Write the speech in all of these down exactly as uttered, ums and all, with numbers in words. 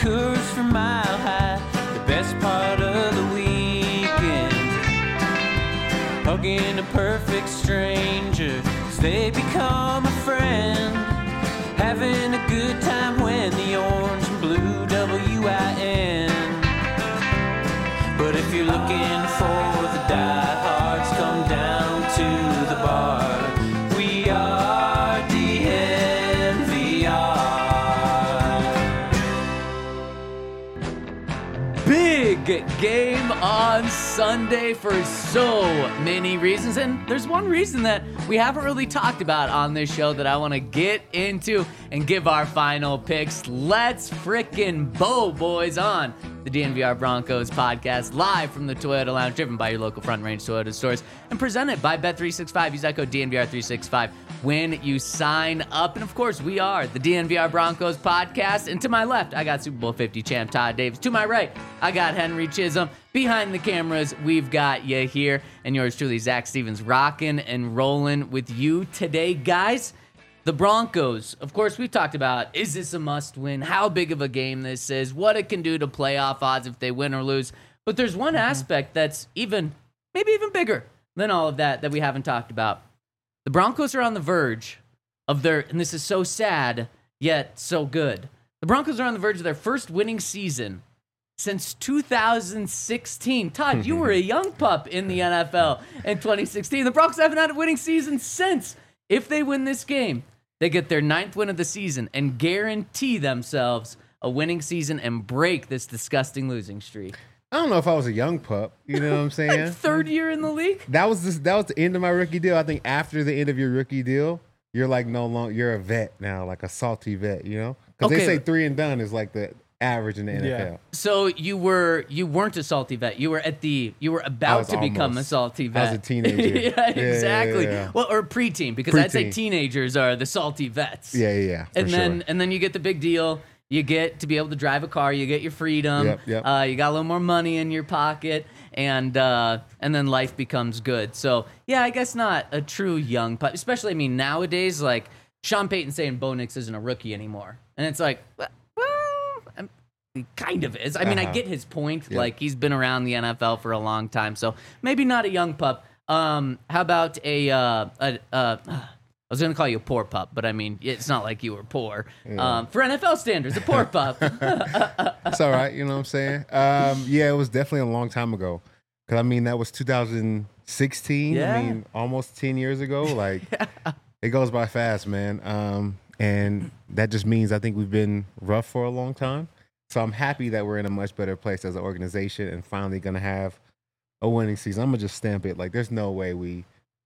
Coors from Mile High, the best part of the weekend. Hugging a perfect stranger as they become a friend. Having a good time when the orange and blue W I N. But if you're looking for the diehards, come down to the bar. We are D N V R. Big game on Sunday for so many reasons, and there's one reason that we haven't really talked about on this show that I want to get into and give our final picks. Let's frickin' bow, boys, on the D N V R Broncos podcast, live from the Toyota Lounge, driven by your local Front Range Toyota stores, and presented by Bet three sixty-five. Use that code D N V R three sixty-five when you sign up. And of course, we are the D N V R Broncos podcast. And to my left, I got Super Bowl fifty champ Todd Davis. To my right, I got Henry Chisholm. Behind the cameras, we've got you here. And yours truly, Zach Stevens, rocking and rolling with you today, guys. The Broncos, of course, we've talked about, is this a must-win? How big of a game this is? What it can do to playoff odds if they win or lose? But there's one mm-hmm. aspect that's even, maybe even bigger than all of that that we haven't talked about. The Broncos are on the verge of their, and this is so sad, yet so good. The Broncos are on the verge of their first winning season since two thousand sixteen. Todd, you were a young pup in the N F L in twenty sixteen. The Broncos haven't had a winning season since. If they win this game, they get their ninth win of the season and guarantee themselves a winning season and break this disgusting losing streak. I don't know if I was a young pup. You know what I'm saying? Like third year in the league? That was this, that was the end of my rookie deal. I think after the end of your rookie deal, you're like no longer, you're a vet now, like a salty vet, you know? Because Okay. they say three and done is like the average in the N F L. Yeah. So you were you weren't a salty vet. You were at the you were I about was to become a almost. salty I vet. was a teenager. yeah, Yeah, exactly. yeah, yeah. Well, or preteen, because I'd say Preteen. teenagers are the salty vets. Yeah, yeah, yeah. For and sure. then and then you get the big deal. You get to be able to drive a car. You get your freedom. Yep, yep. Uh, you got a little more money in your pocket, and uh, and then life becomes good. So yeah, I guess not a true young pup. Especially, I mean, nowadays, like Sean Payton saying Bo Nix isn't a rookie anymore, and it's like, well, I'm, he kind of is. I mean, I Uh-huh. get his point. Yeah. Like he's been around the N F L for a long time, so maybe not a young pup. Um, how about a uh, a. Uh, I was going to call you a poor pup, but I mean, it's not like you were poor. Yeah. Um, for N F L standards, a poor pup. It's all right, you know what I'm saying? Um, yeah, it was definitely a long time ago. Because, I mean, that was two thousand sixteen. Yeah. I mean, almost ten years ago. Like, it goes by fast, man. Um, and that just means I think we've been rough for a long time. So I'm happy that we're in a much better place as an organization and finally going to have a winning season. I'm going to just stamp it. Like, there's no way we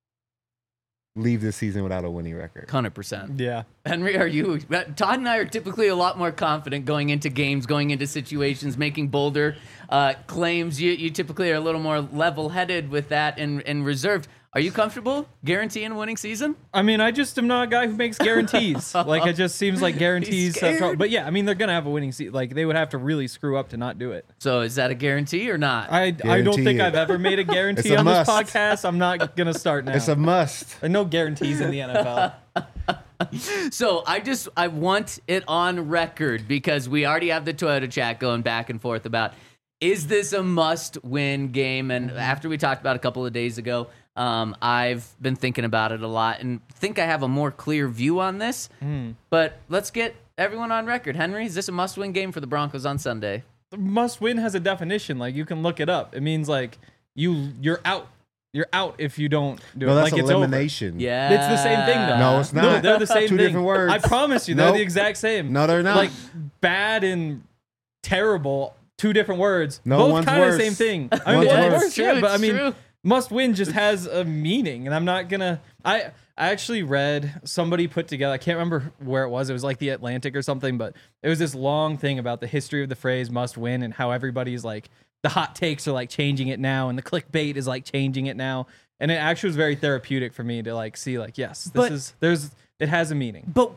leave this season without a winning record. one hundred percent. Yeah. Henry, are you? Todd and I are typically a lot more confident going into games, going into situations, making bolder uh, claims. You you typically are a little more level-headed with that and, and reserved. Are you comfortable guaranteeing a winning season? I mean, I just am not a guy who makes guarantees. Like, it just seems like guarantees. He's Have scared. trouble. But yeah, I mean, they're going to have a winning season. Like, they would have to really screw up to not do it. So is that a guarantee or not? I, I don't Guarantee think it. I've ever made a guarantee It's a on must. this podcast. I'm not going to start now. It's a must. There are no guarantees in the N F L. So I just I want it on record because we already have the Toyota chat going back and forth about, is this a must-win game? And after we talked about it a couple of days ago, um, I've been thinking about it a lot and think I have a more clear view on this. Mm. But let's get everyone on record. Henry, is this a must-win game for the Broncos on Sunday? Must win has a definition. Like, you can look it up. It means, like, you, you're out. You're out if you don't do No, it. that's Like, it's over. elimination. Yeah. It's the same thing, though. No, it's not. No, they're the same Two thing. different words. I promise you, they're Nope. the exact same. No, they're not. Like, bad and terrible, two different words. No, Both one's kind of the worse. same thing. I mean, One's yeah, worse. it's true, It's but I mean, true. must win just has a meaning, and I'm not gonna. I I actually read somebody put together. I can't remember where it was. It was like the Atlantic or something, but it was this long thing about the history of the phrase "must win" and how everybody's like the hot takes are like changing it now, and the clickbait is like changing it now. And it actually was very therapeutic for me to like see like yes, this But- is there's it has a meaning. But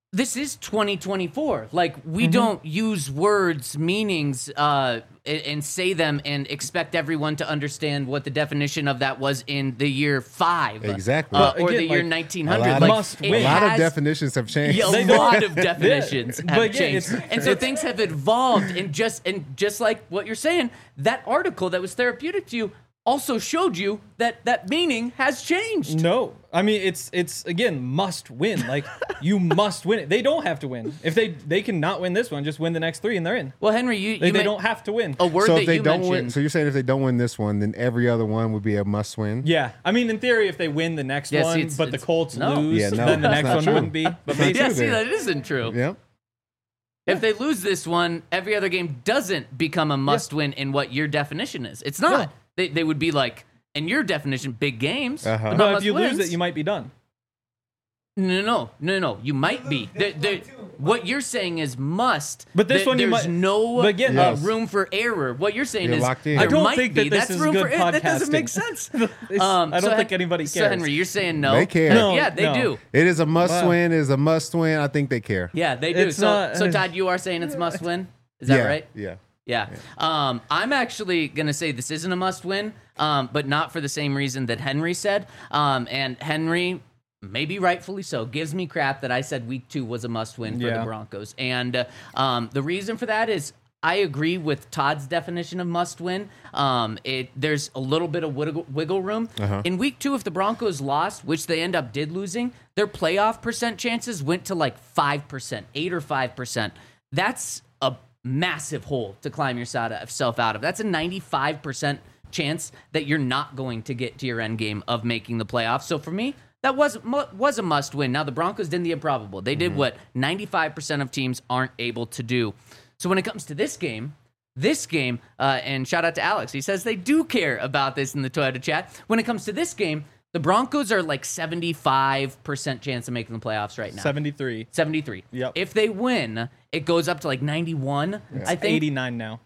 this is twenty twenty-four. Like, we Mm-hmm. don't use words, meanings, uh, and, and say them and expect everyone to understand what the definition of that was in the year five. Exactly. Uh, But or the again, year like, nineteen A hundred. lot, Like, of, must it win. a lot of has- definitions have changed. Yeah, a They don't- lot of definitions Yeah, have but yeah, changed, it's- and so things have evolved. And just and just like what you're saying, that article that was therapeutic to you also showed you that that meaning has changed. No, I mean it's it's again must win. Like you must win it. They don't have to win. If they they can not win this one, just win the next three and they're in. Well, Henry, you, They, you they ma- don't have to win. a word So that if they you don't mentioned. win, so you're saying if they don't win this one, then every other one would be a must win. Yeah, I mean in theory, if they win the next Yeah, see, one, it's- but the it's- Colts no. lose, Yeah, no, then the that's next not one true. wouldn't be. But not basically, yeah, true see, then. that isn't true. Yep. If they lose this one, every other game doesn't become a must-win in what your definition is. It's not. Yeah. They they would be like, in your definition, big games. Uh-huh. but no, not if you must-wins. lose it, you might be done. No, no, no, no. You might be. There- there- what you're saying is must. But this There- one you there's might- no but again, uh, Yes. room for error. What you're saying You're is locked in. there I don't might think be. that this That's is room good for error. That doesn't podcasting. make sense. It's- Um, I don't so think Hen- anybody So cares. Henry, you're saying no. They care. No. Yeah, they no. do. It is a must Wow. win. It is a must win. I think they care. Yeah, they do. It's so, not- so Todd, you are saying it's must win. Is that yeah. right? Yeah. Yeah. Um, I'm actually going to say this isn't a must win, um, but not for the same reason that Henry said. Um, and Henry, maybe rightfully so, gives me crap that I said week two was a must win for Yeah. the Broncos. And uh, um, the reason for that is I agree with Todd's definition of must win. Um, it There's a little bit of wiggle, wiggle room. Uh-huh. In week two, if the Broncos lost, which they end up did losing, their playoff percent chances went to like five percent, eight or five percent. That's a massive hole to climb yourself out of. That's a ninety-five percent chance that you're not going to get to your end game of making the playoffs. So for me, that was was a must win. Now the Broncos did the improbable. They did what ninety-five percent of teams aren't able to do. So when it comes to this game, this game, uh, and shout out to Alex, he says they do care about this in the Toyota chat. When it comes to this game, the Broncos are like seventy-five percent chance of making the playoffs right now. seventy-three. seventy-three. Yep. If they win, it goes up to like ninety-one, I think. eighty-nine now.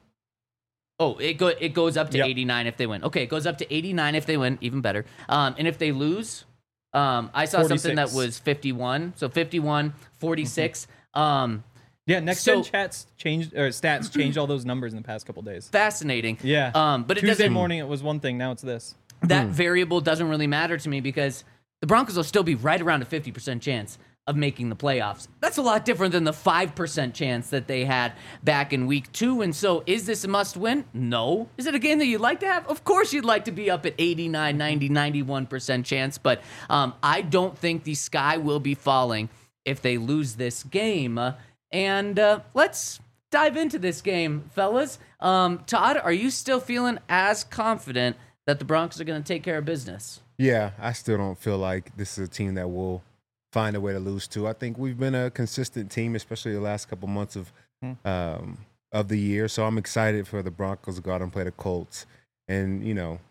Oh, it go it goes up to Yep. eighty-nine if they win. Okay, it goes up to eighty-nine if they win, even better. Um, and if they lose, um, I saw something that forty-six. was fifty-one. So fifty-one, forty-six. Um, Yeah, next So- gen chats changed or stats changed all those numbers in the past couple days. fascinating. Yeah. Um, but it Tuesday doesn't. morning it was one thing, now it's this. That variable doesn't really matter to me because the Broncos will still be right around a fifty percent chance of making the playoffs. That's a lot different than the five percent chance that they had back in week two. And so is this a must win? No. Is it a game that you'd like to have? Of course you'd like to be up at eighty-nine, ninety, ninety-one percent chance, but um, I don't think the sky will be falling if they lose this game. Uh, and uh, let's dive into this game, fellas. Um, Todd, are you still feeling as confident that the Broncos are going to take care of business? Yeah, I still don't feel like this is a team that will find a way to lose to. I think we've been a consistent team, especially the last couple months of um, of the year. So I'm excited for the Broncos to go out and play the Colts and, you know,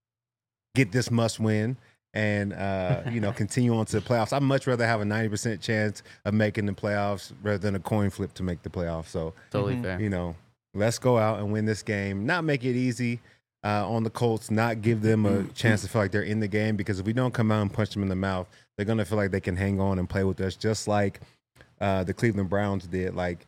get this must win and, uh, you know, continue on to the playoffs. I'd much rather have a ninety percent chance of making the playoffs rather than a coin flip to make the playoffs. So, Totally fair. you know, let's go out and win this game. Not make it easy uh, on the Colts, not give them a chance to feel like they're in the game, because if we don't come out and punch them in the mouth, they're going to feel like they can hang on and play with us just like uh, the Cleveland Browns did. Like,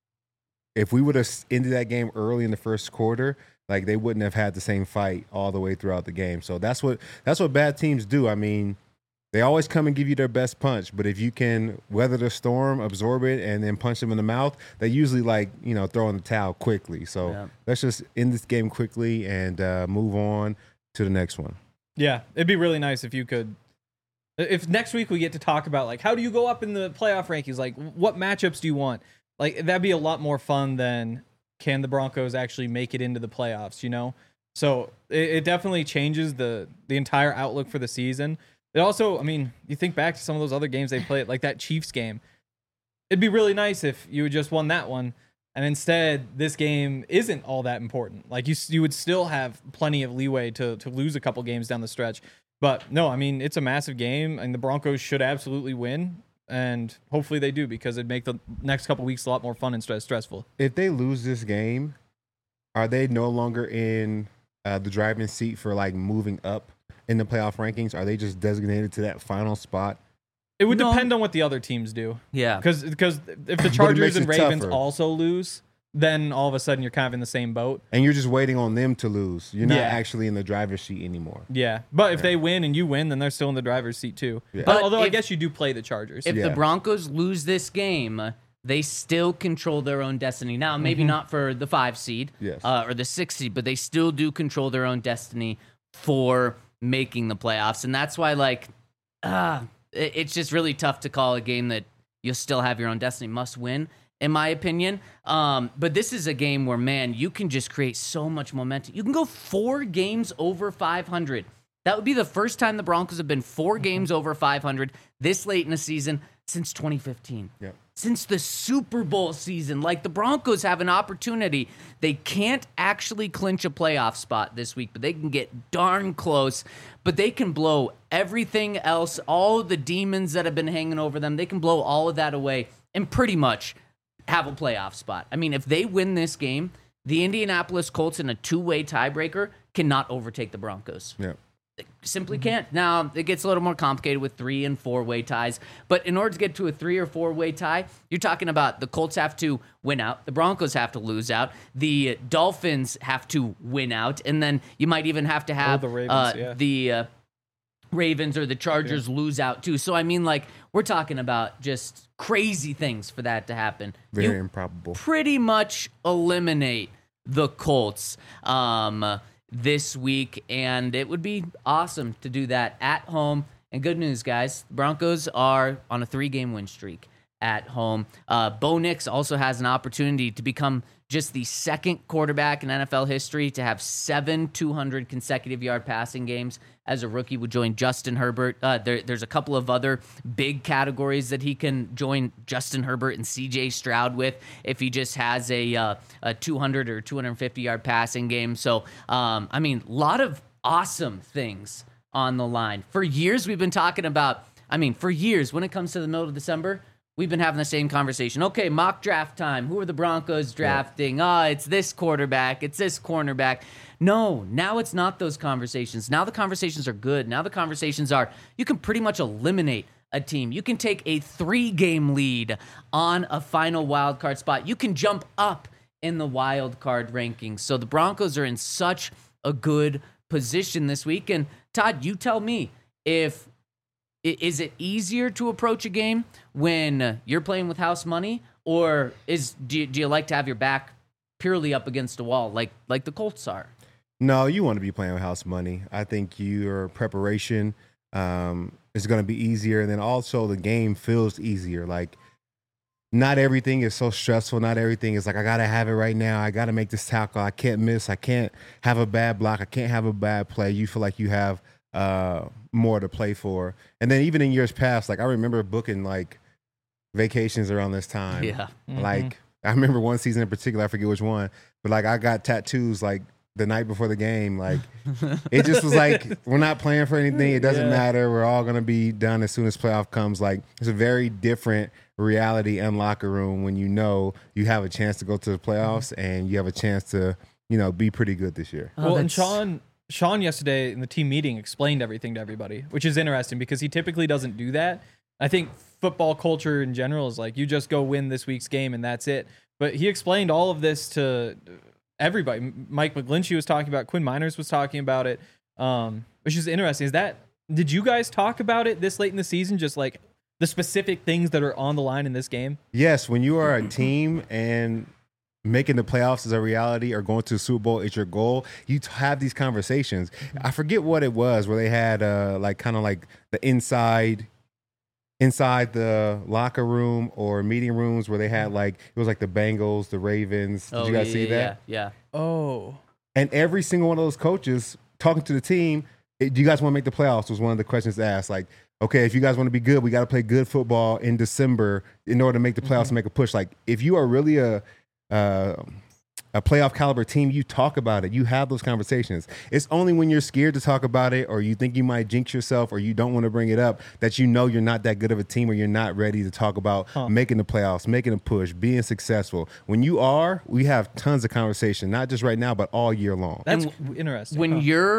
if we would have ended that game early in the first quarter, like they wouldn't have had the same fight all the way throughout the game. So that's what that's what bad teams do. I mean, they always come and give you their best punch, but if you can weather the storm, absorb it, and then punch them in the mouth, they usually like, you know, throw in the towel quickly. So Yeah. let's just end this game quickly and uh, move on to the next one. Yeah, it'd be really nice if you could. If next week we get to talk about like how do you go up in the playoff rankings, like what matchups do you want? Like that'd be a lot more fun than can the Broncos actually make it into the playoffs, you know? So it, it definitely changes the the entire outlook for the season. It also, I mean, you think back to some of those other games they played, like that Chiefs game. It'd be really nice if you had just won that one, and instead this game isn't all that important. Like you, you would still have plenty of leeway to to lose a couple games down the stretch. But no, I mean, it's a massive game, and the Broncos should absolutely win, and hopefully they do, because it'd make the next couple weeks a lot more fun and stress stressful. If they lose this game, are they no longer in uh, the driving seat for like moving up in the playoff rankings? Are they just designated to that final spot It would No. depend on what the other teams do. Yeah. Because because if the makes Chargers and it Ravens tougher. also lose, then all of a sudden you're kind of in the same boat. And you're just waiting on them to lose. You're not Yeah. actually in the driver's seat anymore. Yeah, but if they win and you win, then they're still in the driver's seat too. Yeah. But But although I if- guess you do play the Chargers. If the Yeah. Broncos lose this game, they still control their own destiny. Now, maybe not for the five seed Yes. uh, or the six seed, but they still do control their own destiny for making the playoffs. And that's why, like, uh, it- it's just really tough to call a game that you'll still have your own destiny. Must win, in my opinion. Um, but this is a game where, man, you can just create so much momentum. You can go four games over five hundred. That would be the first time the Broncos have been four games over five hundred this late in the season since twenty fifteen. Yep. Since the Super Bowl season. Like, the Broncos have an opportunity. They can't actually clinch a playoff spot this week, but they can get darn close. But they can blow everything else, all the demons that have been hanging over them, they can blow all of that away and pretty much have a playoff spot. I mean, if they win this game, the Indianapolis Colts in a two-way tiebreaker cannot overtake the Broncos. Yeah. Simply can't. Now, it gets a little more complicated with three and four-way ties. But in order to get to a three or four-way tie, you're talking about the Colts have to win out, the Broncos have to lose out, the Dolphins have to win out, and then you might even have to have the Ravens, uh, yeah. the uh, Ravens or the Chargers lose out too. So, I mean, like, we're talking about just crazy things for that to happen. Very You improbable. pretty much eliminate the Colts um, this week, and it would be awesome to do that at home. And good news, guys, the Broncos are on a three-game win streak at home. Uh, Bo Nix also has an opportunity to become just the second quarterback in N F L history to have seven two hundred consecutive yard passing games as a rookie. Would join Justin Herbert. Uh, there, there's a couple of other big categories that he can join Justin Herbert and C J Stroud with if he just has a, uh, a two hundred or two hundred fifty yard passing game. So, um, I mean, a lot of awesome things on the line. For years, we've been talking about, I mean, for years, when it comes to the middle of December, we've been having the same conversation. Okay, mock draft time. Who are the Broncos drafting? Ah, it's this quarterback. It's this cornerback. No, now it's not those conversations. Now the conversations are good. Now the conversations are, you can pretty much eliminate a team. You can take a three-game lead on a final wild card spot. You can jump up in the wild card rankings. So the Broncos are in such a good position this week. And Todd, you tell me, if I- is it easier to approach a game when you're playing with house money, or is do you, do you like to have your back purely up against a wall like like the Colts are? No, you want to be playing with house money. I think your preparation um, is going to be easier, and then also the game feels easier. Like, not everything is so stressful. Not everything is like, I got to have it right now. I got to make this tackle. I can't miss. I can't have a bad block. I can't have a bad play. You feel like you have uh, more to play for. And then even in years past, like, I remember booking like vacations around this time. Yeah. Like, I remember one season in particular, I forget which one, but like I got tattoos like the night before the game. Like, it just was like, we're not playing for anything. It doesn't Yeah. matter. We're all going to be done as soon as playoff comes. Like, it's a very different reality and locker room when you know you have a chance to go to the playoffs and you have a chance to, you know, be pretty good this year. Oh, Well, and that's- Sean Sean yesterday in the team meeting explained everything to everybody, which is interesting because he typically doesn't do that. I think football culture in general is like, you just go win this week's game and that's it. But he explained all of this to everybody. M- Mike McGlinchey was talking about, Quinn Miners was talking about it, um, which is interesting. Is that, did you guys talk about it this late in the season? Just like the specific things that are on the line in this game? Yes, when you are a team and making the playoffs is a reality or going to the Super Bowl is your goal, you t- have these conversations. I forget what it was where they had uh, like kind of like the inside inside the locker room or meeting rooms where they had like, it was like the Bengals, the Ravens. Did Oh, you guys yeah, see yeah, that? Yeah. Oh. And every single one of those coaches talking to the team, "Hey, do you guys want to make the playoffs?" was one of the questions asked. Like, okay, if you guys want to be good, we got to play good football in December in order to make the playoffs and make a push. Like, if you are really a uh, a playoff caliber team, you talk about it. You have those conversations. It's only when you're scared to talk about it or you think you might jinx yourself or you don't want to bring it up that you know you're not that good of a team or you're not ready to talk about making the playoffs, making a push, being successful. When you are, we have tons of conversation, not just right now, but all year long. That's And interesting. When Huh. you're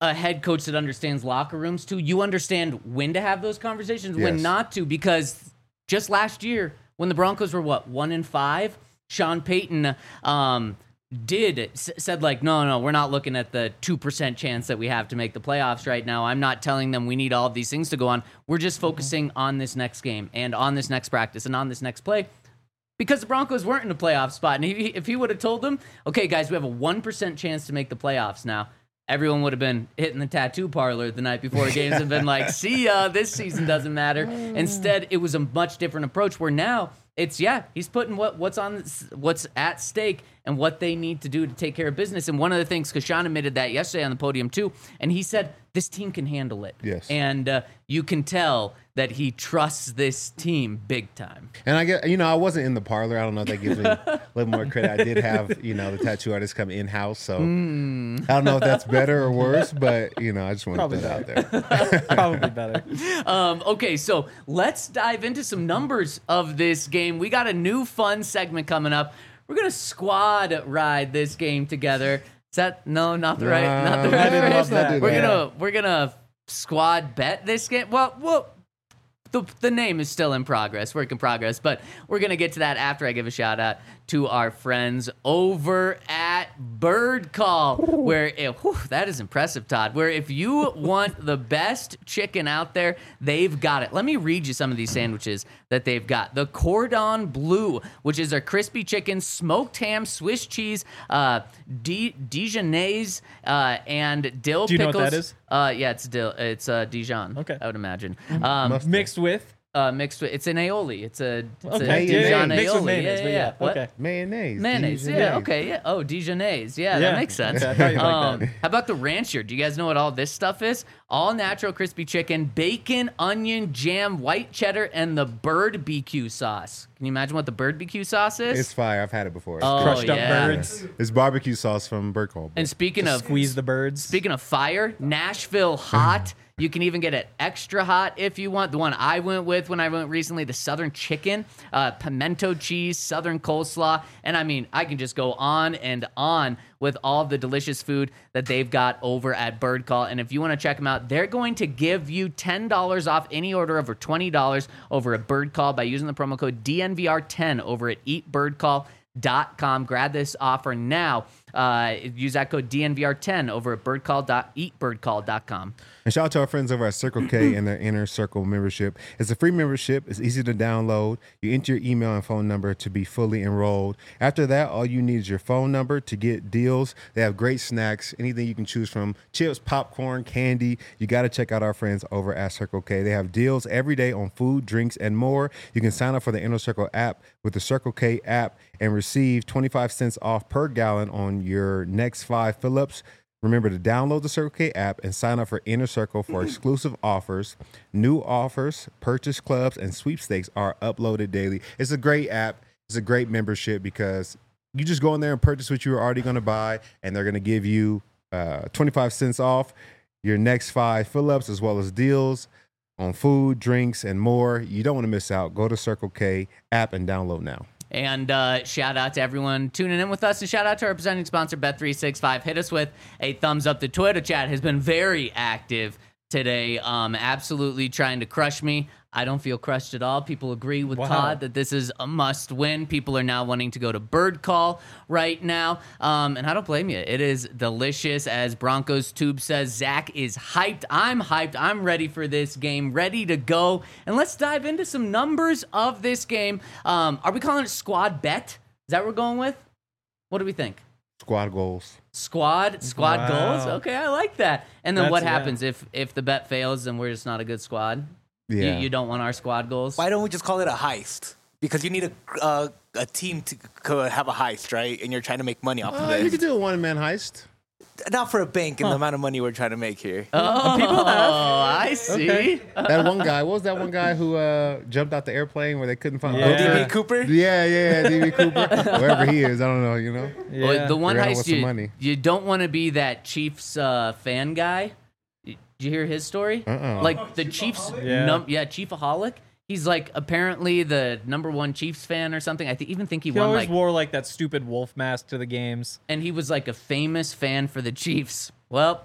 a head coach that understands locker rooms too. You understand when to have those conversations, when Yes. not to, because just last year when the Broncos were what one and five, Sean Payton um, did s- said like, no, no, we're not looking at the two percent chance that we have to make the playoffs right now. I'm not telling them we need all of these things to go on. We're just focusing on this next game and on this next practice and on this next play. Because the Broncos weren't in a playoff spot. And he, if he would have told them, okay, guys, we have a one percent chance to make the playoffs now, everyone would have been hitting the tattoo parlor the night before the games and been like, see ya, this season doesn't matter. Instead, it was a much different approach where now it's, yeah, he's putting what what's on what's at stake and what they need to do to take care of business. And one of the things, because Sean admitted that yesterday on the podium too, and he said this team can handle it. Yes. And uh, you can tell that he trusts this team big time. And I get, you know, I wasn't in the parlor. I don't know if that gives me a little more credit. I did have, you know, the tattoo artist come in house, so Mm. I don't know if that's better or worse, but you know, I just want to Probably put it out there. Probably better. Um, okay, so let's dive into some numbers of this game. We got a new fun segment coming up. We're gonna squad ride this game together. Is that no, not the right, not the No, right. I didn't phrase? love that. We're Yeah. gonna we're gonna squad bet this game. Well, well. The, the name is still in progress, work in progress, but we're going to get to that after I give a shout out to our friends over at Bird Call, where, it, whew, that is impressive, Todd, where if you want the best chicken out there, they've got it. Let me read you some of these sandwiches that they've got. The Cordon Bleu, which is a crispy chicken, smoked ham, Swiss cheese, uh, Di- Dijonnaise, uh, and dill Do you know pickles. what that is? Uh, yeah, it's dill. It's uh, Dijon. Okay. I would imagine. Um, Must- Mixed with. uh, mixed with it's an aioli. It's a it's Okay. a yeah, Dijon yeah, mixed with aioli. mayonnaise, yeah, but yeah, yeah, What? okay. Mayonnaise. Mayonnaise. Yeah. Dijonnaise. Okay. Yeah. Oh, Dijonnaise. Yeah, Yeah. that makes sense. Okay, I thought you'd like Um, that. how about the rancher? Do you guys know what all this stuff is? All natural crispy chicken, bacon, onion, jam, white cheddar, and the bird B Q sauce. Can you imagine what the bird B Q sauce is? It's fire. I've had it before. Oh, Crushed up yeah. birds. It's barbecue sauce from Bird Call. And speaking of Squeeze the birds. Speaking of fire, Nashville hot. You can even get it extra hot if you want. The one I went with when I went recently, the Southern chicken, uh, pimento cheese, Southern coleslaw. And I mean, I can just go on and on with all the delicious food that they've got over at Bird Call. And if you want to check them out, they're going to give you ten dollars off any order over twenty dollars over at Bird Call by using the promo code D N V R ten over at eat bird call dot com. Grab this offer now. Uh, use that code D N V R ten over at birdcall dot eat bird call dot com. And shout out to our friends over at Circle K and their Inner Circle membership. It's a free membership. It's easy to download. You enter your email and phone number to be fully enrolled. After that, all you need is your phone number to get deals. They have great snacks, anything you can choose from, chips, popcorn, candy. You got to check out our friends over at Circle K. They have deals every day on food, drinks, and more. You can sign up for the Inner Circle app with the Circle K app and receive twenty-five cents off per gallon on your next five fill-ups. Remember to download the Circle K app and sign up for Inner Circle for exclusive offers. New offers, purchase clubs, and sweepstakes are uploaded daily. It's a great app. It's a great membership because you just go in there and purchase what you were already going to buy, and they're going to give you uh, twenty-five cents off your next five fill-ups as well as deals on food, drinks, and more. You don't want to miss out. Go to Circle K app and download now. And uh, shout out to everyone tuning in with us, and shout out to our presenting sponsor, Bet three sixty-five. Hit us with a thumbs up. The Twitter chat has been very active today, um, absolutely trying to crush me. I don't feel crushed at all. People agree with Wow. Todd that this is a must win. People are now wanting to go to Bird Call right now. Um, and I don't blame you. It is delicious. As Broncos Tube says, Zach is hyped. I'm hyped. I'm ready for this game, ready to go. And let's dive into some numbers of this game. Um, are we calling it squad bet? Is that what we're going with? What do we think? Squad goals. Squad, squad Wow. goals. Okay, I like that. And then what That's- yeah. happens if if the bet fails and we're just not a good squad? Yeah. You, you don't want our squad goals? Why don't we just call it a heist? Because you need a uh, a team to c- have a heist, right? And you're trying to make money off Uh, of you it. could do a one-man heist. Not for a bank and the amount of money we're trying to make here. Oh, People have. I see. Okay. That one guy, what was that one guy who uh, jumped out the airplane where they couldn't find Yeah. Oprah? D B Cooper? Yeah, yeah, D B Cooper. Wherever he is, I don't know, you know? Yeah. Well, the one Figure out what's heist some you, money. you don't want to be that Chiefs uh, fan guy. Did you hear his story? Uh-uh. Like the Chiefs, Yeah. num- yeah, Chiefaholic. He's like apparently the number one Chiefs fan or something. I think even think he, he won always like, wore like that stupid wolf mask to the games. and he was like a famous fan for the Chiefs. Well,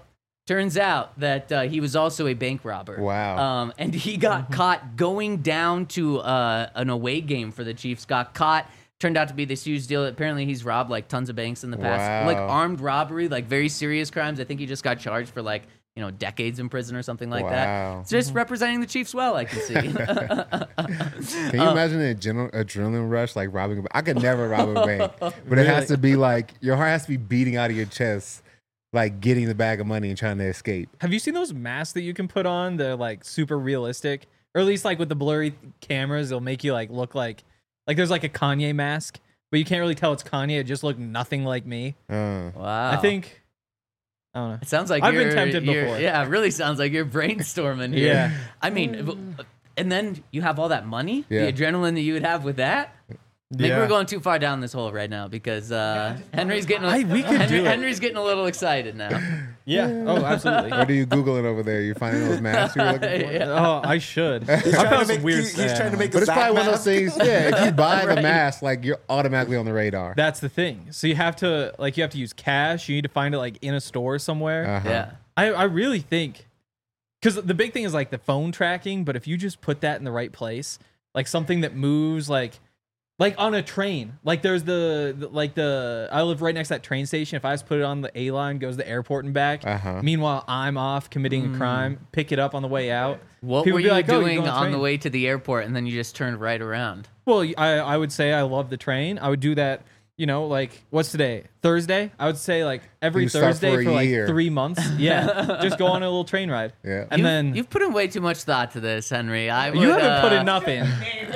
Turns out that uh, he was also a bank robber. Wow. Um, and he got caught going down to uh, an away game for the Chiefs. Got caught. Turned out to be this huge deal. Apparently, he's robbed like tons of banks in the past, Wow. like armed robbery, like very serious crimes. I think he just got charged for like you know decades in prison or something like Wow. that. It's just representing the Chiefs well, I can see. Can you imagine the adrenal, adrenaline rush like robbing a bank? I could never rob a bank, but it has to be like your heart has to be beating out of your chest, like getting the bag of money and trying to escape. Have you seen those masks that you can put on? They're like super realistic, or at least like with the blurry cameras, they'll make you like look like like there's like a Kanye mask, but you can't really tell it's Kanye. It just looked nothing like me. Uh, Wow. I think. I don't know. It sounds like I've been you're- tempted you're- before. Yeah, it really sounds like you're brainstorming here. Yeah. I mean, and then you have all that money, Yeah. the adrenaline that you would have with that. Maybe Yeah. we're going too far down this hole right now because uh, Henry's getting a, I- we could Henry, do it. Henry's getting a little excited now. Yeah. Oh, absolutely. what are you Googling over there? You finding those masks you were looking for? Yeah. Oh, I should. I He's trying, found to some make, weird he's, he's stuff. trying to make But a it's probably one of those mask. things. Yeah, if you buy the Right. mask, like you're automatically on the radar. That's the thing. So you have to like you have to use cash. You need to find it like in a store somewhere. Uh-huh. Yeah. I I really think because the big thing is like the phone tracking. But if you just put that in the right place, like something that moves, like like on a train, like there's the, the like the I live right next to that train station. If I just put it on the A line, goes to the airport and back. Uh-huh. Meanwhile, I'm off committing a crime. Pick it up on the way out. What People were be you like, "Oh, you're doing going on the train." way to the airport and then you just turned right around? Well, I I would say I love the train. I would do that. You know, like what's today? Thursday. I would say like every You start Thursday for for, a like year. three months. Yeah, just go on a little train ride. Yeah. and You've- then you've put in way too much thought to this, Henry. I would, you haven't put uh, enough in.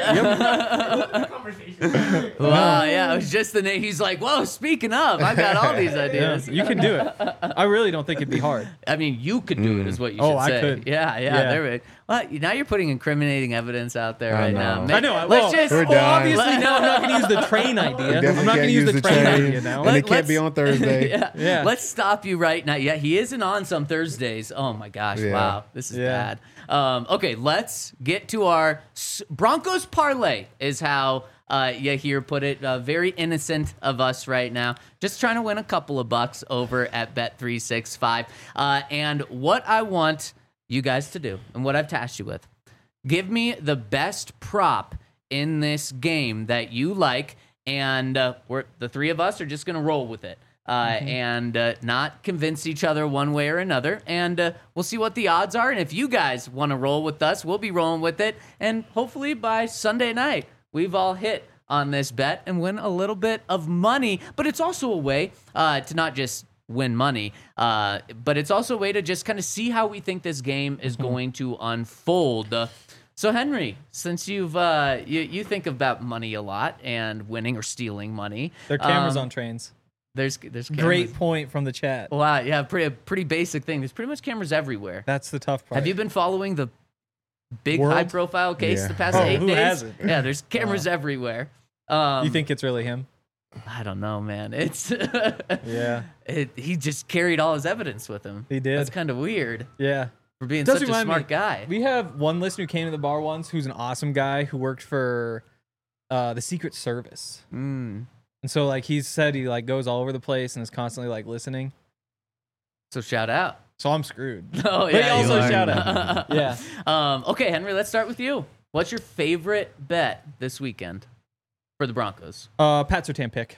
Well, yeah, it was just the name. He's like, whoa, speaking of, I've got all these Yeah, ideas. you can do it. I really don't think it'd be hard. I mean, you could do it, is what you should Oh, I say. could. Yeah, yeah, Yeah. there we Well, now you're putting incriminating evidence out there I right know. now. I know. Let's well, just. We're well, done. obviously, no, I'm not going to use the train idea. I'm Definitely not going can't to use the train, idea now. and Let- it can't be let's- on Thursday. yeah. Yeah. Let's stop you right now. Yeah, he isn't on some Thursdays. Oh my gosh! Yeah. Wow, this is Yeah. bad. Um, okay, let's get to our S- Broncos parlay. Is how uh, Yahir put it. Uh, very innocent of us right now. Just trying to win a couple of bucks over at Bet three sixty-five. Uh, and what I want you guys to do, and what I've tasked you with, give me the best prop in this game that you like, and uh, we're the three of us are just gonna roll with it. Uh, and uh, not convince each other one way or another. And uh, we'll see what the odds are. And if you guys want to roll with us, we'll be rolling with it. And hopefully by Sunday night, we've all hit on this bet and win a little bit of money. But it's also a way uh, to not just win money, uh, but it's also a way to just kind of see how we think this game is going to unfold. Uh, so Henry, since you've uh, you, you think about money a lot and winning or stealing money, There are cameras um, on trains. There's there's cameras. Great point from the chat. Wow, yeah, pretty pretty basic thing. There's pretty much cameras everywhere. That's the tough part. Have you been following the big World? high profile case Yeah. the past Oh, eight who days? hasn't? Yeah, there's cameras everywhere. Um, You think it's really him? I don't know, man. It's Yeah. it, he just carried all his evidence with him. He did. That's kind of weird Yeah. for being Does such a remind smart me- guy. We have one listener who came to the bar once who's an awesome guy who worked for uh, the Secret Service. Mm. And so like he said he like goes all over the place and is constantly like listening. So shout out. So I'm screwed. Oh But yeah, you also are. shout out. Yeah. Um, okay, Henry, let's start with you. What's your favorite bet this weekend for the Broncos? Uh Pat Surtain pick.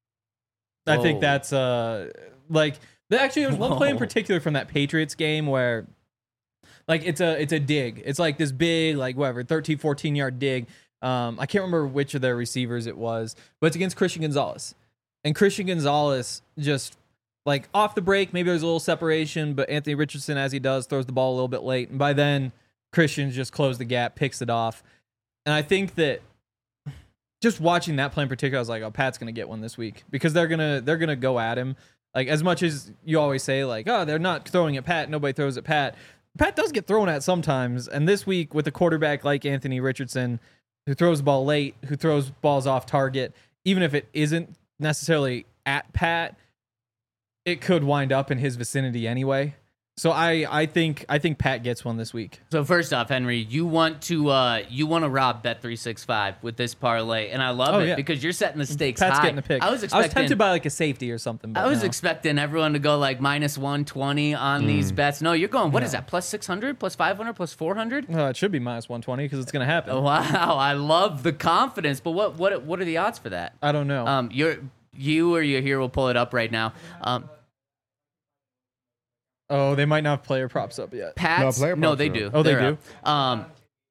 I Whoa. think that's uh like the- actually there was one play in Whoa. particular from that Patriots game where like it's a it's a dig. It's like this big like whatever thirteen fourteen yard dig. Um I can't remember which of their receivers it was, but it's against Christian Gonzalez. And Christian Gonzalez just like off the break, maybe there's a little separation, but Anthony Richardson as he does throws the ball a little bit late, and by then Christian's just closed the gap, picks it off. And I think that just watching that play in particular, I was like, "Oh, Pat's gonna get one this week," because they're gonna they're gonna go at him. Like as much as you always say, like, "Oh, they're not throwing at Pat. Nobody throws at Pat." Pat does get thrown at sometimes, and this week with a quarterback like Anthony Richardson, who throws the ball late, who throws balls off target, even if it isn't necessarily at Pat, it could wind up in his vicinity anyway. So I, I think I think Pat gets one this week. So first off, Henry, you want to uh, you want to rob Bet three sixty-five with this parlay, and I love Oh, it yeah. because you're setting the stakes Pat's high. getting a pick. I was I was expecting. tempted by like a safety or something. But I was no. expecting everyone to go like minus one twenty on these bets. No, you're going. What is that? Plus six hundred, plus five hundred, plus four hundred. Uh, it should be minus one twenty because it's gonna happen. Wow, I love the confidence. But what what what are the odds for that? I don't know. Um, you're you or you here will pull it up right now. Um, oh, they might not have player props up yet. Pat's No, player no, props they are do. up. Oh, they They're do? up. Um,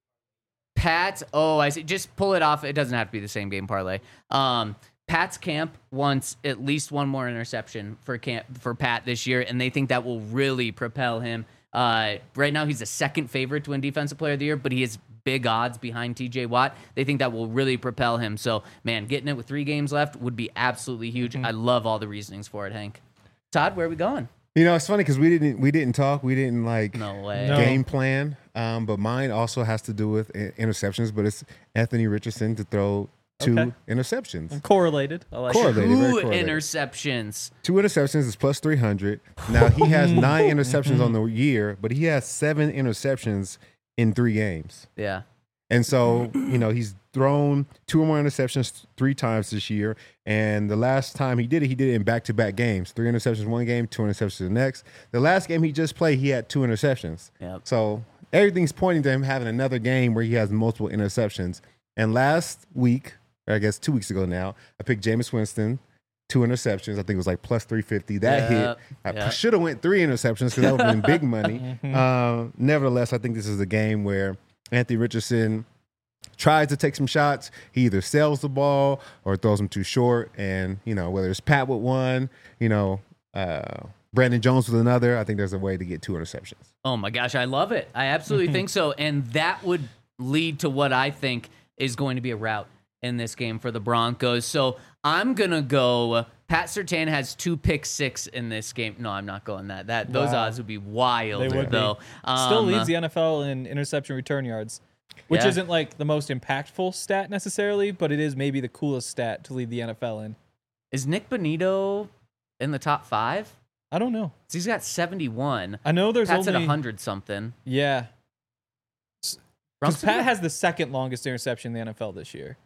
Pat's. Oh, I see. Just pull it off. It doesn't have to be the same game parlay. Um, Pat's camp wants at least one more interception for camp for Pat this year, and they think that will really propel him. Uh, right now, he's the second favorite to win Defensive Player of the Year, but he has big odds behind T J Watt. They think that will really propel him. So, man, getting it with three games left would be absolutely huge. I love all the reasonings for it, Hank. Todd, where are we going? You know, it's funny because we didn't we didn't talk. We didn't like No way. No. game plan. Um, but mine also has to do with i- interceptions. But it's Anthony Richardson to throw two Okay. interceptions. Correlated. I like it. Correlated. very Two correlated. interceptions. Two interceptions is plus three hundred. Now he has nine interceptions on the year, but he has seven interceptions in three games. Yeah. And so, you know, he's thrown two or more interceptions three times this year. And the last time he did it, he did it in back-to-back games. Three interceptions one game, two interceptions the next. The last game he just played, he had two interceptions. Yep. So everything's pointing to him having another game where he has multiple interceptions. And last week, or I guess two weeks ago now, I picked Jameis Winston, two interceptions. I think it was like plus three fifty. That Yep. hit. I Yep. should have went three interceptions because that would have been big money. Um, nevertheless, I think this is a game where Anthony Richardson tries to take some shots. He either sells the ball or throws them too short. And, you know, whether it's Pat with one, you know, uh, Brandon Jones with another, I think there's a way to get two interceptions. Oh my gosh, I love it. I absolutely think so. And that would lead to what I think is going to be a rout in this game for the Broncos. So I'm going to go. Pat Surtain has two pick six in this game. No, I'm not going that. That Those Wow. odds would be wild, They would be. though. Still Um, leads the N F L in interception return yards, which Yeah. isn't like the most impactful stat necessarily, but it is maybe the coolest stat to lead the N F L in. Is Nick Bonito in the top five? I don't know. He's got seventy-one. I know there's Pat's only at one hundred something. yeah. Because Broncos Pat have- has the second longest interception in the N F L this year.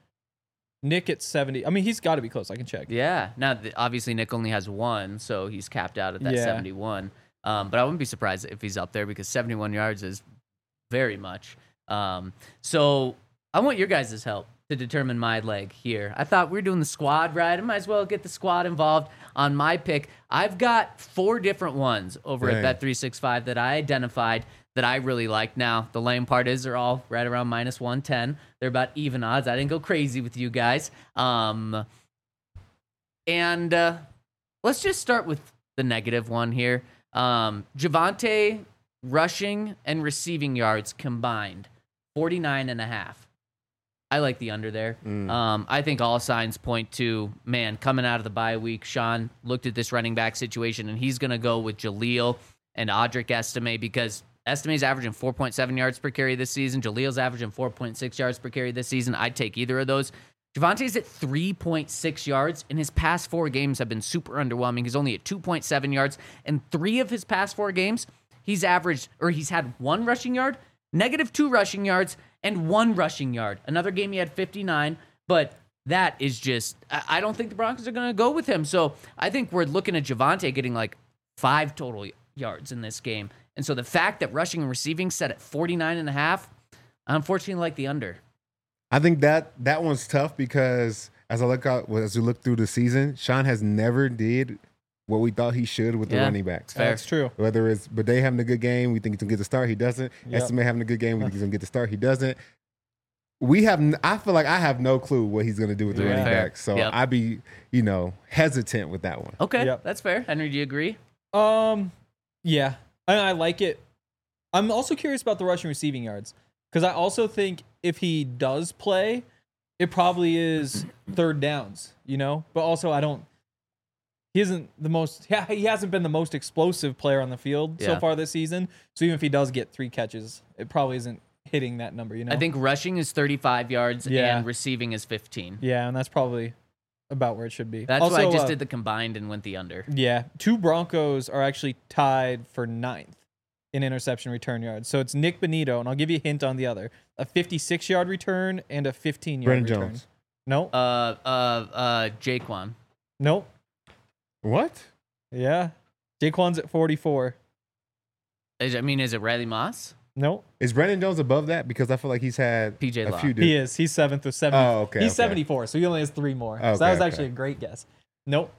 Nick at seventy. I mean, he's got to be close. I can check. Yeah. Now, th- obviously, Nick only has one, so he's capped out at that Yeah. seventy-one. Um, but I wouldn't be surprised if he's up there because seventy-one yards is very much. Um, so I want your guys' help to determine my leg here. I thought we were doing the squad, right? I might as well get the squad involved on my pick. I've got four different ones over at Dang. Bet three sixty-five that I identified that I really like. Now, the lame part is they're all right around minus one ten. They're about even odds. I didn't go crazy with you guys. Um, and uh, let's just start with the negative one here. Um, Javonte rushing and receiving yards combined, forty-nine and a half. I like the under there. Mm. Um, I think all signs point to, man, coming out of the bye week, Sean looked at this running back situation, and he's going to go with Jaleel and Audric Estime because Estime's averaging four point seven yards per carry this season. Jaleel's averaging four point six yards per carry this season. I'd take either of those. Javonte's at three point six yards, and his past four games have been super underwhelming. He's only at two point seven yards, and three of his past four games, he's averaged, or he's had one rushing yard, negative two rushing yards, and one rushing yard. Another game he had fifty-nine, but that is just, I I don't think the Broncos are going to go with him. So I think we're looking at Javonte getting like five total yards in this game. And so the fact that rushing and receiving set at forty-nine and a half, I unfortunately like the under. I think that that one's tough because as I look out, as we look through the season, Sean has never did what we thought he should with the Yeah. running backs. Fair. That's true. Whether it's Bade having a good game, we think he's gonna get the start. He doesn't. Yep. Estimate having a good game, we think he's gonna get the start. He doesn't. We have. n- I feel like I have no clue what he's gonna do with the Yeah. running Fair. backs. So Yep. I'd be, you know, hesitant with that one. Okay, Yep. that's fair. Henry, do you agree? Um, yeah, I, I like it. I'm also curious about the rushing receiving yards because I also think if he does play, it probably is third downs, you know. But also, I don't. He isn't the most. Yeah, he hasn't been the most explosive player on the field so Yeah. far this season. So even if he does get three catches, it probably isn't hitting that number, you know. I think rushing is thirty-five yards Yeah. and receiving is fifteen. Yeah, and that's probably about where it should be. That's also, why I just uh, did the combined and went the under. Yeah, two Broncos are actually tied for ninth in interception return yards. So it's Nick Benito, and I'll give you a hint on the other: a fifty-six-yard return and a fifteen-yard Brendan return. Jones. Nope. Uh, uh, uh, Jaquan. Nope. What? Yeah. Jaquan's at forty-four. Is, I mean, is it Riley Moss? Nope. Is Brandon Jones above that? Because I feel like he's had P J a Locke. few. He is. He's seventh with seventy. Oh, okay, He's okay. seventy-four, so he only has three more. Okay, so that was okay. actually a great guess. Nope.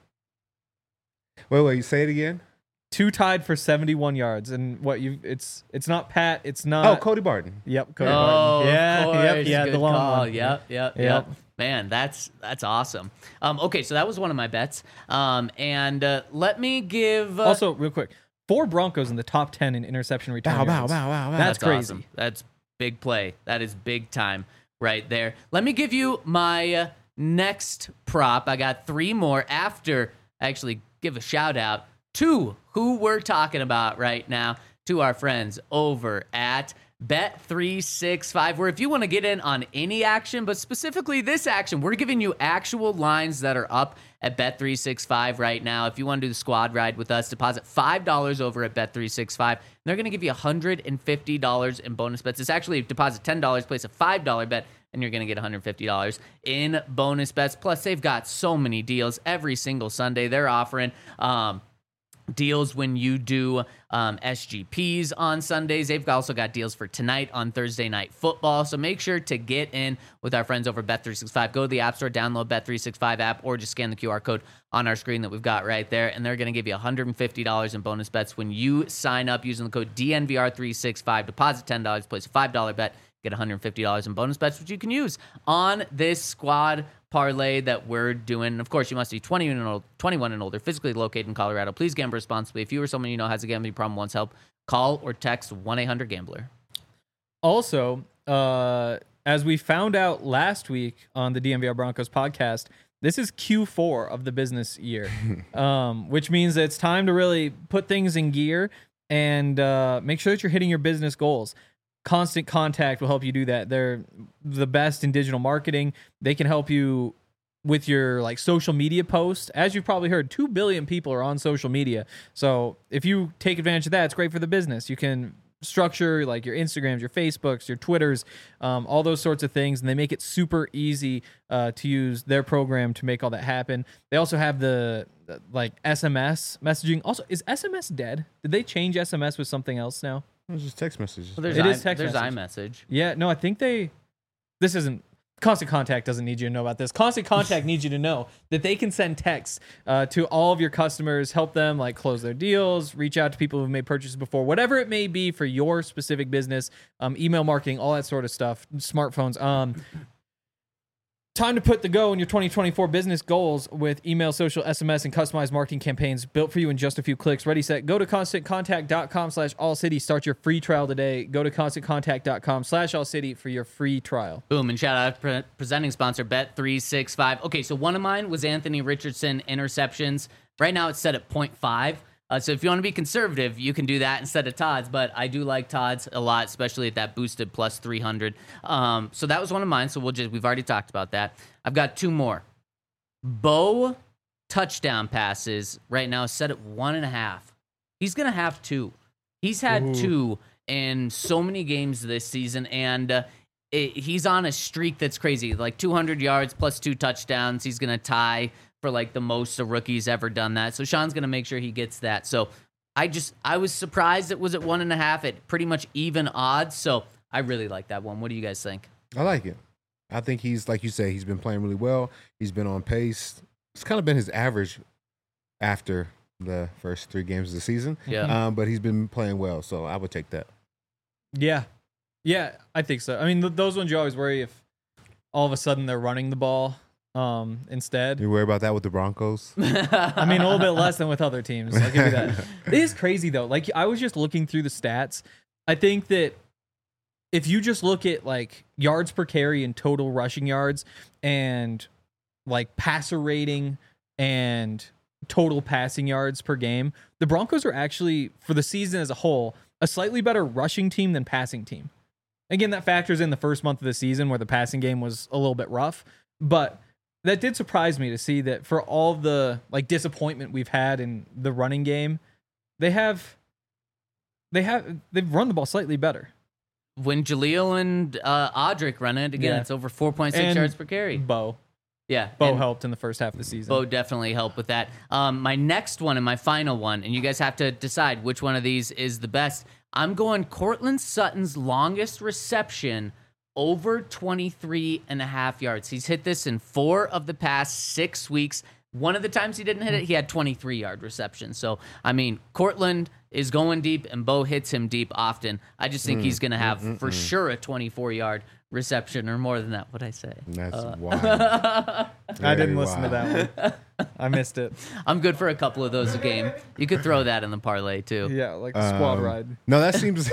Wait, wait. Say it again. Two tied for seventy-one yards, and what you? It's it's not Pat. It's not. Oh, Cody Barton. Yep. Cody Oh, Barton. Yeah. of course. Yep. Yeah. Good The long call. one. Yep, yep, yep. Yep. Man, that's that's awesome. Um, okay, so that was one of my bets. Um, and uh, let me give. Uh, Also, real quick, four Broncos in the top ten in interception return. Bow, bow, yards. bow, bow, bow. That's crazy. awesome. That's big play. That is big time right there. Let me give you my uh, next prop. I got three more after I actually give a shout out to who we're talking about right now, to our friends over at Bet three sixty-five, where if you want to get in on any action, but specifically this action, we're giving you actual lines that are up at Bet three sixty-five right now. If you want to do the squad ride with us, deposit five dollars over at Bet three sixty-five. And they're going to give you one hundred fifty dollars in bonus bets. It's actually deposit ten dollars, place a five dollar bet, and you're going to get one hundred fifty dollars in bonus bets. Plus, they've got so many deals every single Sunday. They're offering um, deals when you do um, S G Ps on Sundays. They've also got deals for tonight on Thursday Night Football. So make sure to get in with our friends over Bet three sixty-five. Go to the App Store, download Bet three sixty-five app, or just scan the Q R code on our screen that we've got right there. And they're going to give you one hundred fifty dollars in bonus bets when you sign up using the code D N V R three sixty-five. Deposit ten dollars, place a five dollar bet, get one hundred fifty dollars in bonus bets, which you can use on this squad parlay that we're doing. Of course, you must be twenty-one and old, twenty-one and older, physically located in Colorado. Please gamble responsibly. If you or someone you know has a gambling problem, wants help, call or text one eight hundred gambler. Also, uh, as we found out last week on the D N V R Broncos podcast, this is Q four of the business year, um, which means that it's time to really put things in gear and uh, make sure that you're hitting your business goals. Constant Contact will help you do that. They're the best in digital marketing. They can help you with your like social media posts. As you've probably heard, two billion people are on social media. So if you take advantage of that, it's great for the business. You can structure like your Instagrams, your Facebooks, your Twitters, um, all those sorts of things. And they make it super easy uh, to use their program to make all that happen. They also have the, the like S M S messaging. Also, is S M S dead? Did they change S M S with something else now? It was just text messages. Well, there's It I, is text there's message. iMessage. Yeah, no, I think they. This isn't. Constant Contact doesn't need you to know about this. Constant Contact needs you to know that they can send texts uh, to all of your customers, help them like close their deals, reach out to people who've made purchases before, whatever it may be for your specific business, um, email marketing, all that sort of stuff, smartphones. Um, time to put the go in your twenty twenty-four business goals with email, social, S M S, and customized marketing campaigns built for you in just a few clicks. Ready, set, go to constantcontact.com slash all city. Start your free trial today. Go to constantcontact.com slash all city for your free trial. Boom, and shout out to pre- presenting sponsor Bet three sixty-five. Okay, so one of mine was Anthony Richardson interceptions. Right now it's set at point five. Uh, so if you want to be conservative, you can do that instead of Todd's, but I do like Todd's a lot, especially at that boosted plus three hundred. Um, so that was one of mine, so we'll just, we've already talked about that. I've got two more. Bo touchdown passes right now set at one and a half. He's going to have two. He's had Ooh. two in so many games this season, and uh, it, he's on a streak that's crazy, like two hundred yards plus two touchdowns. He's going to tie for like the most a rookie's ever done that. So Sean's going to make sure he gets that. So I just, I was surprised it was at one and a half at pretty much even odds. So I really like that one. What do you guys think? I like it. I think he's, like you say, he's been playing really well. He's been on pace. It's kind of been his average after the first three games of the season. Yeah. Um, but he's been playing well, so I would take that. Yeah. Yeah, I think so. I mean, th- those ones you always worry if all of a sudden they're running the ball um, instead. You worry about that with the Broncos? I mean, a little bit less than with other teams. I'll give you that. It is crazy, though. Like, I was just looking through the stats. I think that if you just look at, like, yards per carry and total rushing yards and, like, passer rating and total passing yards per game, the Broncos are actually, for the season as a whole, a slightly better rushing team than passing team. Again, that factors in the first month of the season where the passing game was a little bit rough. But that did surprise me to see that for all the like disappointment we've had in the running game, they have they have they've run the ball slightly better. When Jaleel and uh, Audric run it again, Yeah. it's over four point six And yards per carry. Bo, Yeah, Bo and helped in the first half of the season. Bo definitely helped with that. Um, my next one and my final one, and you guys have to decide which one of these is the best. I'm going Cortland Sutton's longest reception over twenty-three and a half yards. He's hit this in four of the past six weeks. One of the times he didn't hit it, he had twenty-three yard reception. So, I mean, Cortland is going deep and Bo hits him deep often. I just think he's going to have mm, for mm. sure a twenty-four yard reception or more than that. What'd I say? That's Uh, wild. I Very didn't listen wild. to that one. I missed it. I'm good for a couple of those a game. You could throw that in the parlay too. Yeah, like the squad Um, ride. No, that seems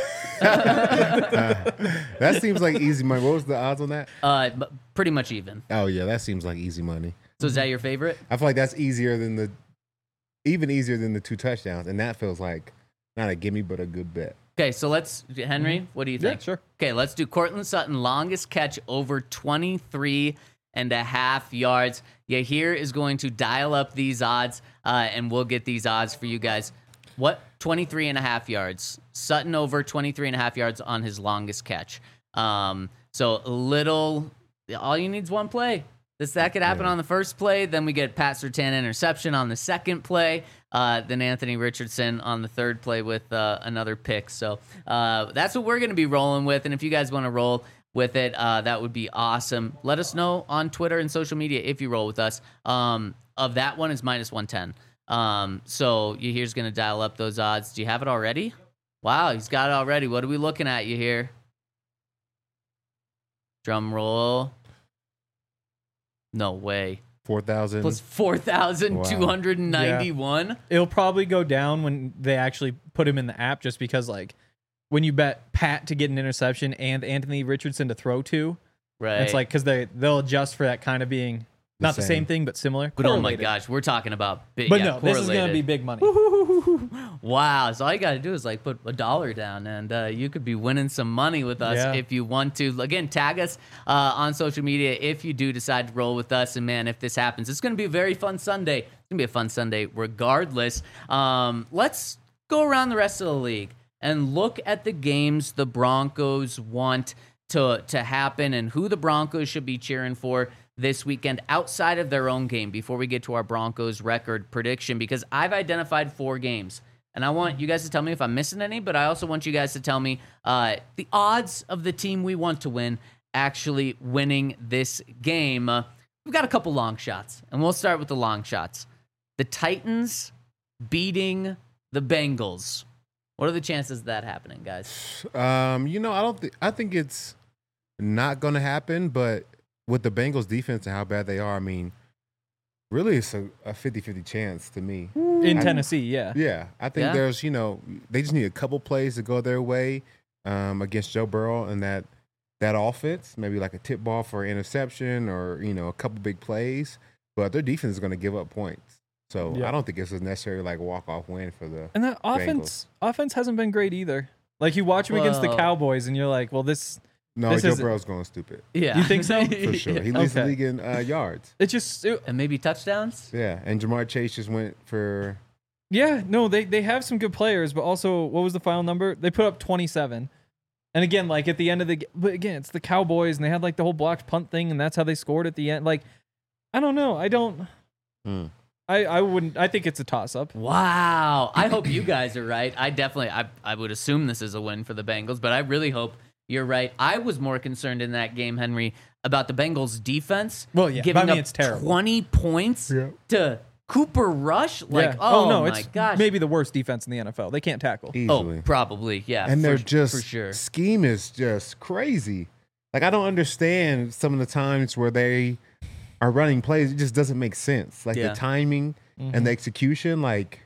that seems like easy money. What was the odds on that? Uh, but pretty much even. Oh yeah, that seems like easy money. So is that your favorite? I feel like that's easier than the, even easier than the two touchdowns, and that feels like not a gimme but a good bet. Okay, so let's Henry. What do you Yeah, think? sure. Okay, let's do Cortland Sutton longest catch over twenty-three and a half yards. Yeah, here is going to dial up these odds, uh, and we'll get these odds for you guys. What? twenty-three and a half yards. Sutton over twenty-three and a half yards on his longest catch. Um, so a little, all you need is one play. This that could happen Yeah. on the first play. Then we get Pat Surtain interception on the second play. Uh, then Anthony Richardson on the third play with uh, another pick. So uh, that's what we're going to be rolling with. And if you guys want to roll with it, uh, that would be awesome. Let us know on Twitter and social media if you roll with us. Um, of that one is minus one ten. Um, so you here's going to dial up those odds. Do you have it already? Wow, he's got it already. What are we looking at you here? Drum roll. No way. Four thousand. Plus four thousand two hundred ninety-one. It'll probably go down when they actually put him in the app, just because like when you bet Pat to get an interception and Anthony Richardson to throw to, Right. it's like because they they'll adjust for that kind of being not the same. same thing but similar. But oh my Correlated. gosh, we're talking about big. But yeah, no, this is gonna be correlated. big money. Wow. So all you got to do is like put a dollar down and uh, you could be winning some money with us Yeah. if you want to. Again, tag us uh, on social media if you do decide to roll with us. And man, if this happens, it's going to be a very fun Sunday. It's going to be a fun Sunday regardless. Um, let's go around the rest of the league and look at the games the Broncos want to, to happen and who the Broncos should be cheering for this weekend outside of their own game before we get to our Broncos record prediction, because I've identified four games. And I want you guys to tell me if I'm missing any, but I also want you guys to tell me uh, the odds of the team we want to win actually winning this game. Uh, we've got a couple long shots, and we'll start with the long shots. The Titans beating the Bengals. What are the chances of that happening, guys? Um, you know, I don't think I think it's not going to happen, but with the Bengals defense and how bad they are, I mean, really it's a, a fifty-fifty chance to me. In I- Tennessee, yeah. Yeah, I think Yeah. there's, you know, they just need a couple plays to go their way um, against Joe Burrow and that that offense, maybe like a tip ball for an interception or, you know, a couple big plays. But their defense is going to give up points. So Yeah. I don't think it's a necessarily like walk-off win for the And that offense offense hasn't been great either. Like you watch him against the Well- Cowboys and you're like, well, this No, This Joe isn't- Burrow's going stupid Yeah. You think so? for sure. He leads the Okay. league in uh, yards. it just it- And maybe touchdowns? Yeah, and Jamar Chase just went for yeah, no, they they have some good players, but also what was the final number? They put up twenty-seven. And again, like at the end of the g- but again, it's the Cowboys and they had like the whole blocked punt thing and that's how they scored at the end. Like I don't know. I don't Hmm. I I wouldn't I think it's a toss up. Wow. I hope you guys are right. I definitely, I, I would assume this is a win for the Bengals, but I really hope you're right. I was more concerned in that game, Henry, about the Bengals defense. Well, yeah, giving I mean, up it's terrible. twenty points Yeah. to Cooper Rush. Like, Yeah. oh, no, my it's gosh. maybe the worst defense in the N F L. They can't tackle. easily. Oh, probably, yeah. and for- they're just for sure. scheme is just crazy. Like I don't understand some of the times where they are running plays. It just doesn't make sense. Like Yeah. the timing Mhm. and the execution, like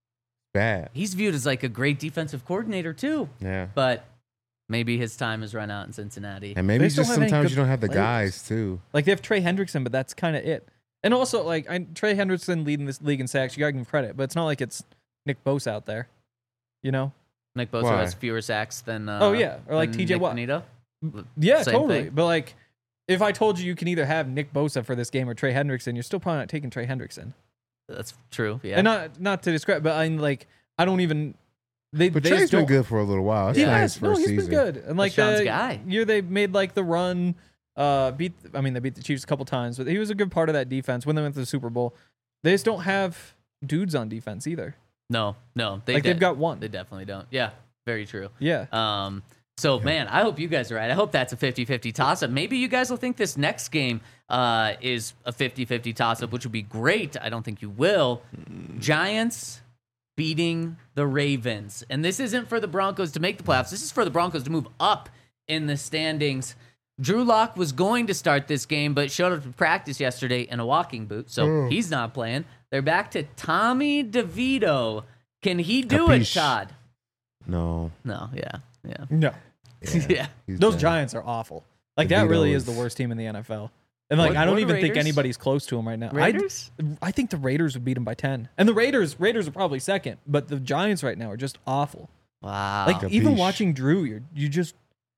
bad. He's viewed as like a great defensive coordinator too, Yeah, but maybe his time has run out in Cincinnati. and maybe They it's still just have any sometimes good you don't have the players. guys too. Like they have Trey Hendrickson, but that's kind of it. And also, like I, Trey Hendrickson leading this league in sacks, you gotta give him credit. But it's not like it's Nick Bosa out there, you know? Nick Bosa Why? has fewer sacks than uh, Oh, yeah, or like than T J Nick Watt. Bonito. Yeah, Same totally. thing. But like, if I told you you can either have Nick Bosa for this game or Trey Hendrickson, you're still probably not taking Trey Hendrickson. That's true. Yeah. And not not to describe, but I'm like, I don't even they But they Trey's just been don't- good for a little while. It's Yes, nice no, first he's season. been good. And like Sean's the guy. year they made like the run, uh, beat. I mean, they beat the Chiefs a couple times, but he was a good part of that defense when they went to the Super Bowl. They just don't have dudes on defense either. No, no, they Like de- they've got one. They definitely don't. Yeah, very true. Yeah. Um, so, man, I hope you guys are right. I hope that's a fifty-fifty toss-up. Maybe you guys will think this next game uh, is a fifty-fifty toss-up, which would be great. I don't think you will. Giants beating the Ravens. And this isn't for the Broncos to make the playoffs. This is for the Broncos to move up in the standings. Drew Lock was going to start this game, but showed up to practice yesterday in a walking boot, so he's not playing. They're back to Tommy DeVito. Can he do Capiche. it, Todd? No. No, yeah, yeah. No. Yeah. He's Those done. Giants are awful. Like that DeVito really is is- the worst team in the N F L. And like What- I don't what even think Raiders? anybody's close to them right now. Raiders? I, I think the Raiders would beat them by ten. And the Raiders Raiders are probably second, but the Giants right now are just awful. Wow. Like even Capiche. watching Drew, you you just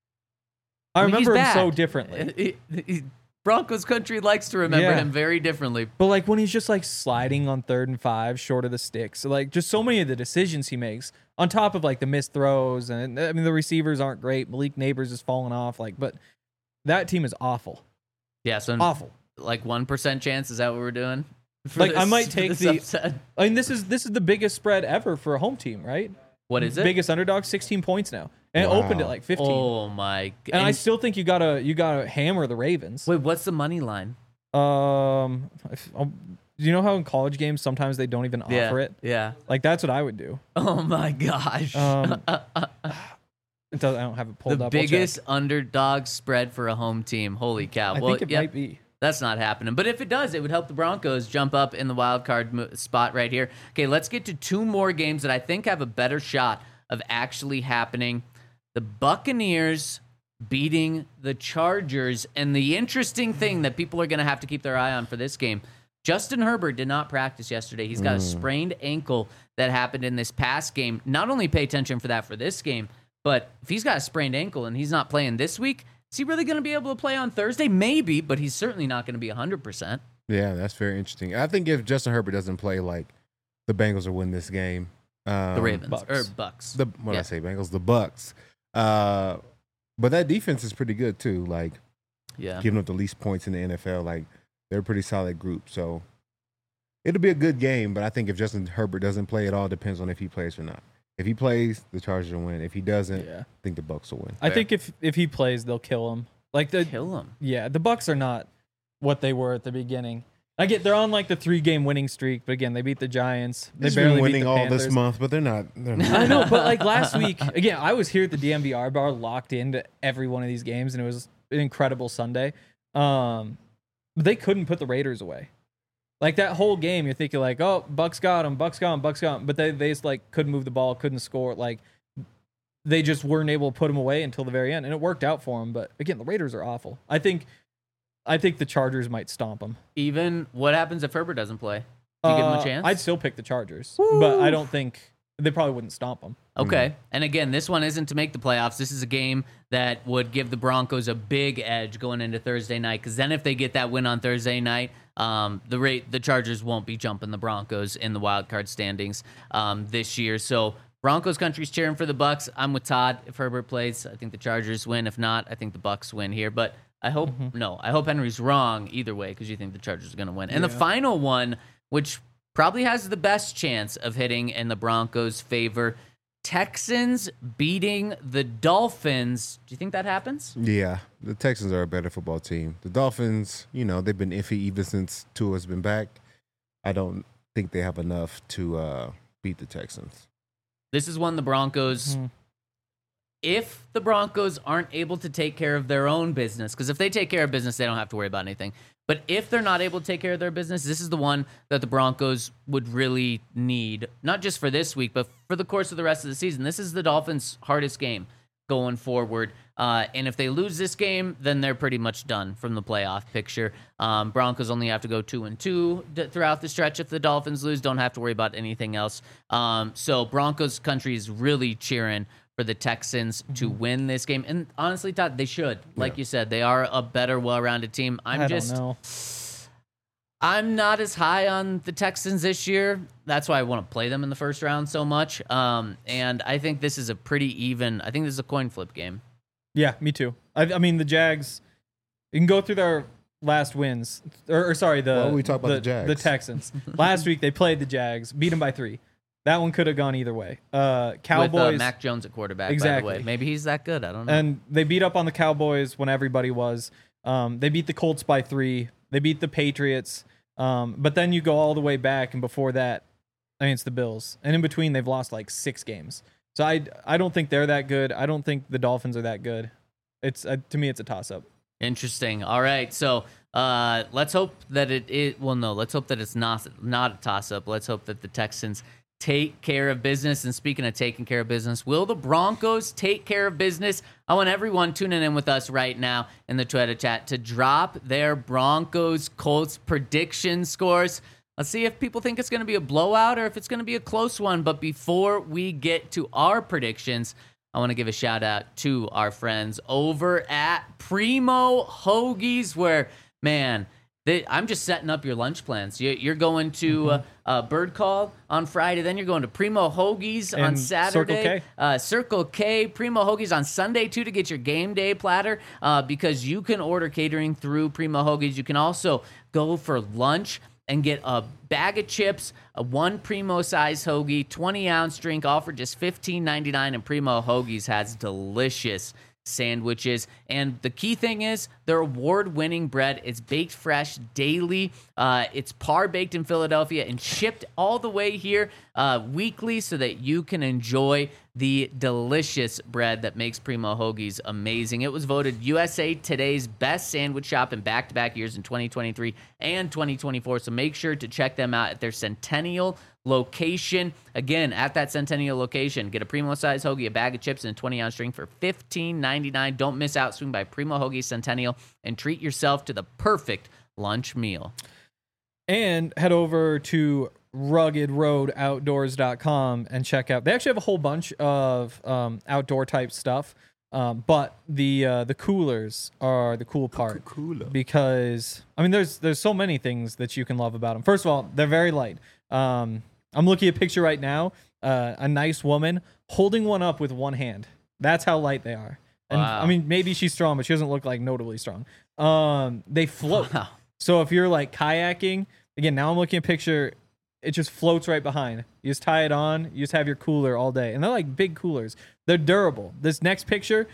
I I mean, he's remember him so bad. differently. He- he- Broncos country likes to remember Yeah. him very differently. But like when he's just like sliding on third and five, short of the sticks, so like just so many of the decisions he makes, on top of like the missed throws, and I mean the receivers aren't great. Malik Neighbors is falling off, like, but that team is awful, Yeah, so awful. like one percent chance. Is that what we're doing? For Like, I this- might for take this the- upset? I mean this is this is the biggest spread ever for a home team, right? What is it? Biggest underdog, sixteen points now, and Wow. it opened at like fifteen. Oh my! g- and I still think you gotta you gotta hammer the Ravens. wait. What's the money line? Um, if, um, do you know how in college games sometimes they don't even Yeah, offer it? yeah. Like that's what I would do. Oh my gosh! Um, It does, I don't have it pulled the up. I'll check. biggest underdog spread for a home team. Holy cow! I well, think it yeah, might be. That's not happening. But if it does, it would help the Broncos jump up in the wild card mo- spot right here. Okay, let's get to two more games that I think have a better shot of actually happening. The Buccaneers beating the Chargers. And the interesting thing that people are going to have to keep their eye on for this game, Justin Herbert did not practice yesterday. He's got a sprained ankle that happened in this past game. Not only pay attention for that for this game, but if he's got a sprained ankle and he's not playing this week, is he really going to be able to play on Thursday? Maybe, but he's certainly not going to be one hundred percent. Yeah, that's very interesting. I think if Justin Herbert doesn't play, like the Bengals will win this game. Um, The Ravens Bucks. or Bucks. The what did Yeah. I say? Bengals. The Bucks. Uh, but that defense is pretty good too. Like yeah. giving up the least points in the N F L. Like they're a pretty solid group. So it'll be a good game. But I think if Justin Herbert doesn't play, it all depends on if he plays or not. If he plays, the Chargers will win. If he doesn't, Yeah. I think the Bucks will win. I think if if he plays, they'll kill him. Like the Kill him. yeah, the Bucks are not what they were at the beginning. I get they're on like the three game winning streak, but again, they beat the Giants. They They've barely been beat winning the all Panthers. this month, but they're not. They're not. I know, but like last week, again, I was here at the D M V R bar, locked into every one of these games, and it was an incredible Sunday. Um, but they couldn't put the Raiders away. Like that whole game, you're thinking like, oh, Bucks got him, Bucks got him, Bucks got him, but they they just like couldn't move the ball, couldn't score. Like they just weren't able to put him away until the very end, and it worked out for them. But again, the Raiders are awful. I think, I think the Chargers might stomp them. Even what happens if Herbert doesn't play? Do you give him a Uh, chance? I'd still pick the Chargers, but I don't think they probably wouldn't stomp them. Okay. And again, this one isn't to make the playoffs. This is a game that would give the Broncos a big edge going into Thursday night. Because then, if they get that win on Thursday night, um, the rate the Chargers won't be jumping the Broncos in the wild card standings um, this year. So Broncos country's cheering for the Bucks. I'm with Todd. If Herbert plays, I think the Chargers win. If not, I think the Bucks win here. But I hope no. I hope Henry's wrong either way because you think the Chargers are going to win. And the final one, which probably has the best chance of hitting in the Broncos' favor. Texans beating the Dolphins. Do you think that happens? Yeah, the Texans are a better football team. The Dolphins, you know, they've been iffy even since Tua's been back. I don't think they have enough to uh, beat the Texans. This is one the Broncos. Hmm. If the Broncos aren't able to take care of their own business, because if they take care of business, they don't have to worry about anything. But if they're not able to take care of their business, this is the one that the Broncos would really need, not just for this week, but for the course of the rest of the season. This is the Dolphins' hardest game going forward. Uh, and if they lose this game, then they're pretty much done from the playoff picture. Um, Broncos only have to go two and two d- throughout the stretch. If the Dolphins lose, don't have to worry about anything else. Um, so Broncos country is really cheering for the Texans to win this game. And honestly, Todd, they should. Like you said, they are a better, well-rounded team. I'm I just, don't know. I'm not as high on the Texans this year. That's why I want to play them in the first round so much. Um, and I think this is a pretty even. I think this is a coin flip game. Yeah, me too. I, I mean, the Jags. You can go through their last wins, or, or sorry, the Why don't we talk about the, the Jags? the Texans. Last week they played the Jags, beat them by three. That one could have gone either way. Uh, Cowboys. With uh, Mac Jones at quarterback, Exactly. by the way. Maybe he's that good. I don't know. And they beat up on the Cowboys when everybody was. Um, they beat the Colts by three. They beat the Patriots. Um, but then you go all the way back, and before that, I mean, it's the Bills. And in between, they've lost like six games. So I, I don't think they're that good. I don't think the Dolphins are that good. It's uh, to me, it's a toss-up. Interesting. All right. So uh, let's hope that it is. Well, no, let's hope that it's not, not a toss-up. Let's hope that the Texans take care of business. And speaking of taking care of business, will the Broncos take care of business? I want everyone tuning in with us right now in the Twitter chat to drop their Broncos Colts prediction scores. Let's see if people think it's going to be a blowout or if it's going to be a close one. But before we get to our predictions, I want to give a shout out to our friends over at Primo Hoagies, where, man, they, I'm just setting up your lunch plans. You, you're going to uh, uh, Bird Call on Friday, then you're going to Primo Hoagies on And Saturday. Circle K. Uh, Circle K, Primo Hoagies on Sunday, too, to get your game day platter, uh, because you can order catering through Primo Hoagies. You can also go for lunch and get a bag of chips, a one Primo size hoagie, twenty ounce drink, all for just fifteen ninety-nine. And Primo Hoagies has delicious sandwiches. And the key thing is their award-winning bread. It's baked fresh daily. Uh, it's par baked in Philadelphia and shipped all the way here uh, weekly so that you can enjoy the delicious bread that makes Primo Hoagies amazing. It was voted U S A Today's best sandwich shop in back-to-back years in twenty twenty-three and twenty twenty-four. So make sure to check them out at their Centennial location. Again, at that Centennial location, get a Primo size hoagie, a bag of chips, and a twenty ounce drink for fifteen ninety-nine. Don't miss out. Swing by Primo Hoagie Centennial and treat yourself to the perfect lunch meal. And head over to rugged road outdoors dot com and check out. They actually have a whole bunch of um, outdoor type stuff, um, but the uh, the coolers are the cool part. Cooler. Because I mean, there's there's so many things that you can love about them. First of all, they're very light. Um, I'm looking at a picture right now. Uh, a nice woman holding one up with one hand. That's how light they are. And Wow. I mean, maybe she's strong, but she doesn't look like notably strong. Um, they float. Wow. So if you're like kayaking, again, now I'm looking at a picture, it just floats right behind. You just tie it on, you just have your cooler all day. And they're like big coolers. They're durable. This next picture,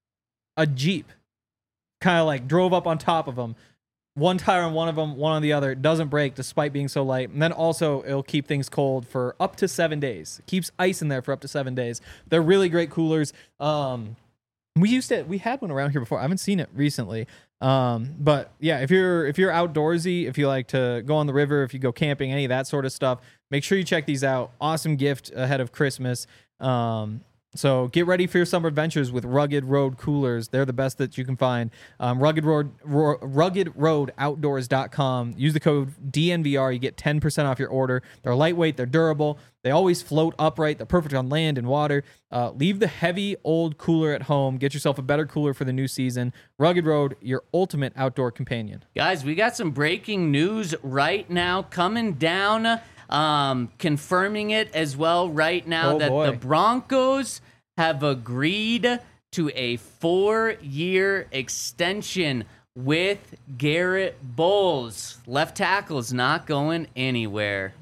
a Jeep kind of like drove up on top of them. One tire on one of them, one on the other. It doesn't break despite being so light. And then also it'll keep things cold for up to seven days. It keeps ice in there for up to seven days. They're really great coolers. Um, we used to, we had one around here before. I haven't seen it recently. Um, but yeah, if you're if you're outdoorsy, if you like to go on the river, if you go camping, any of that sort of stuff, make sure you check these out. Awesome gift ahead of Christmas. Um, so get ready for your summer adventures with Rugged Road coolers. They're the best that you can find. Um, Rugged Road, ro- rugged road outdoors dot com. Use the code D N V R. You get ten percent off your order. They're lightweight. They're durable. They always float upright. They're perfect on land and water. Uh, leave the heavy old cooler at home. Get yourself a better cooler for the new season. Rugged Road, your ultimate outdoor companion. Guys, we got some breaking news right now coming down, um, confirming it as well right now Oh, that boy. the Broncos have agreed to a four-year extension with Garrett Bowles. Left tackle is not going anywhere.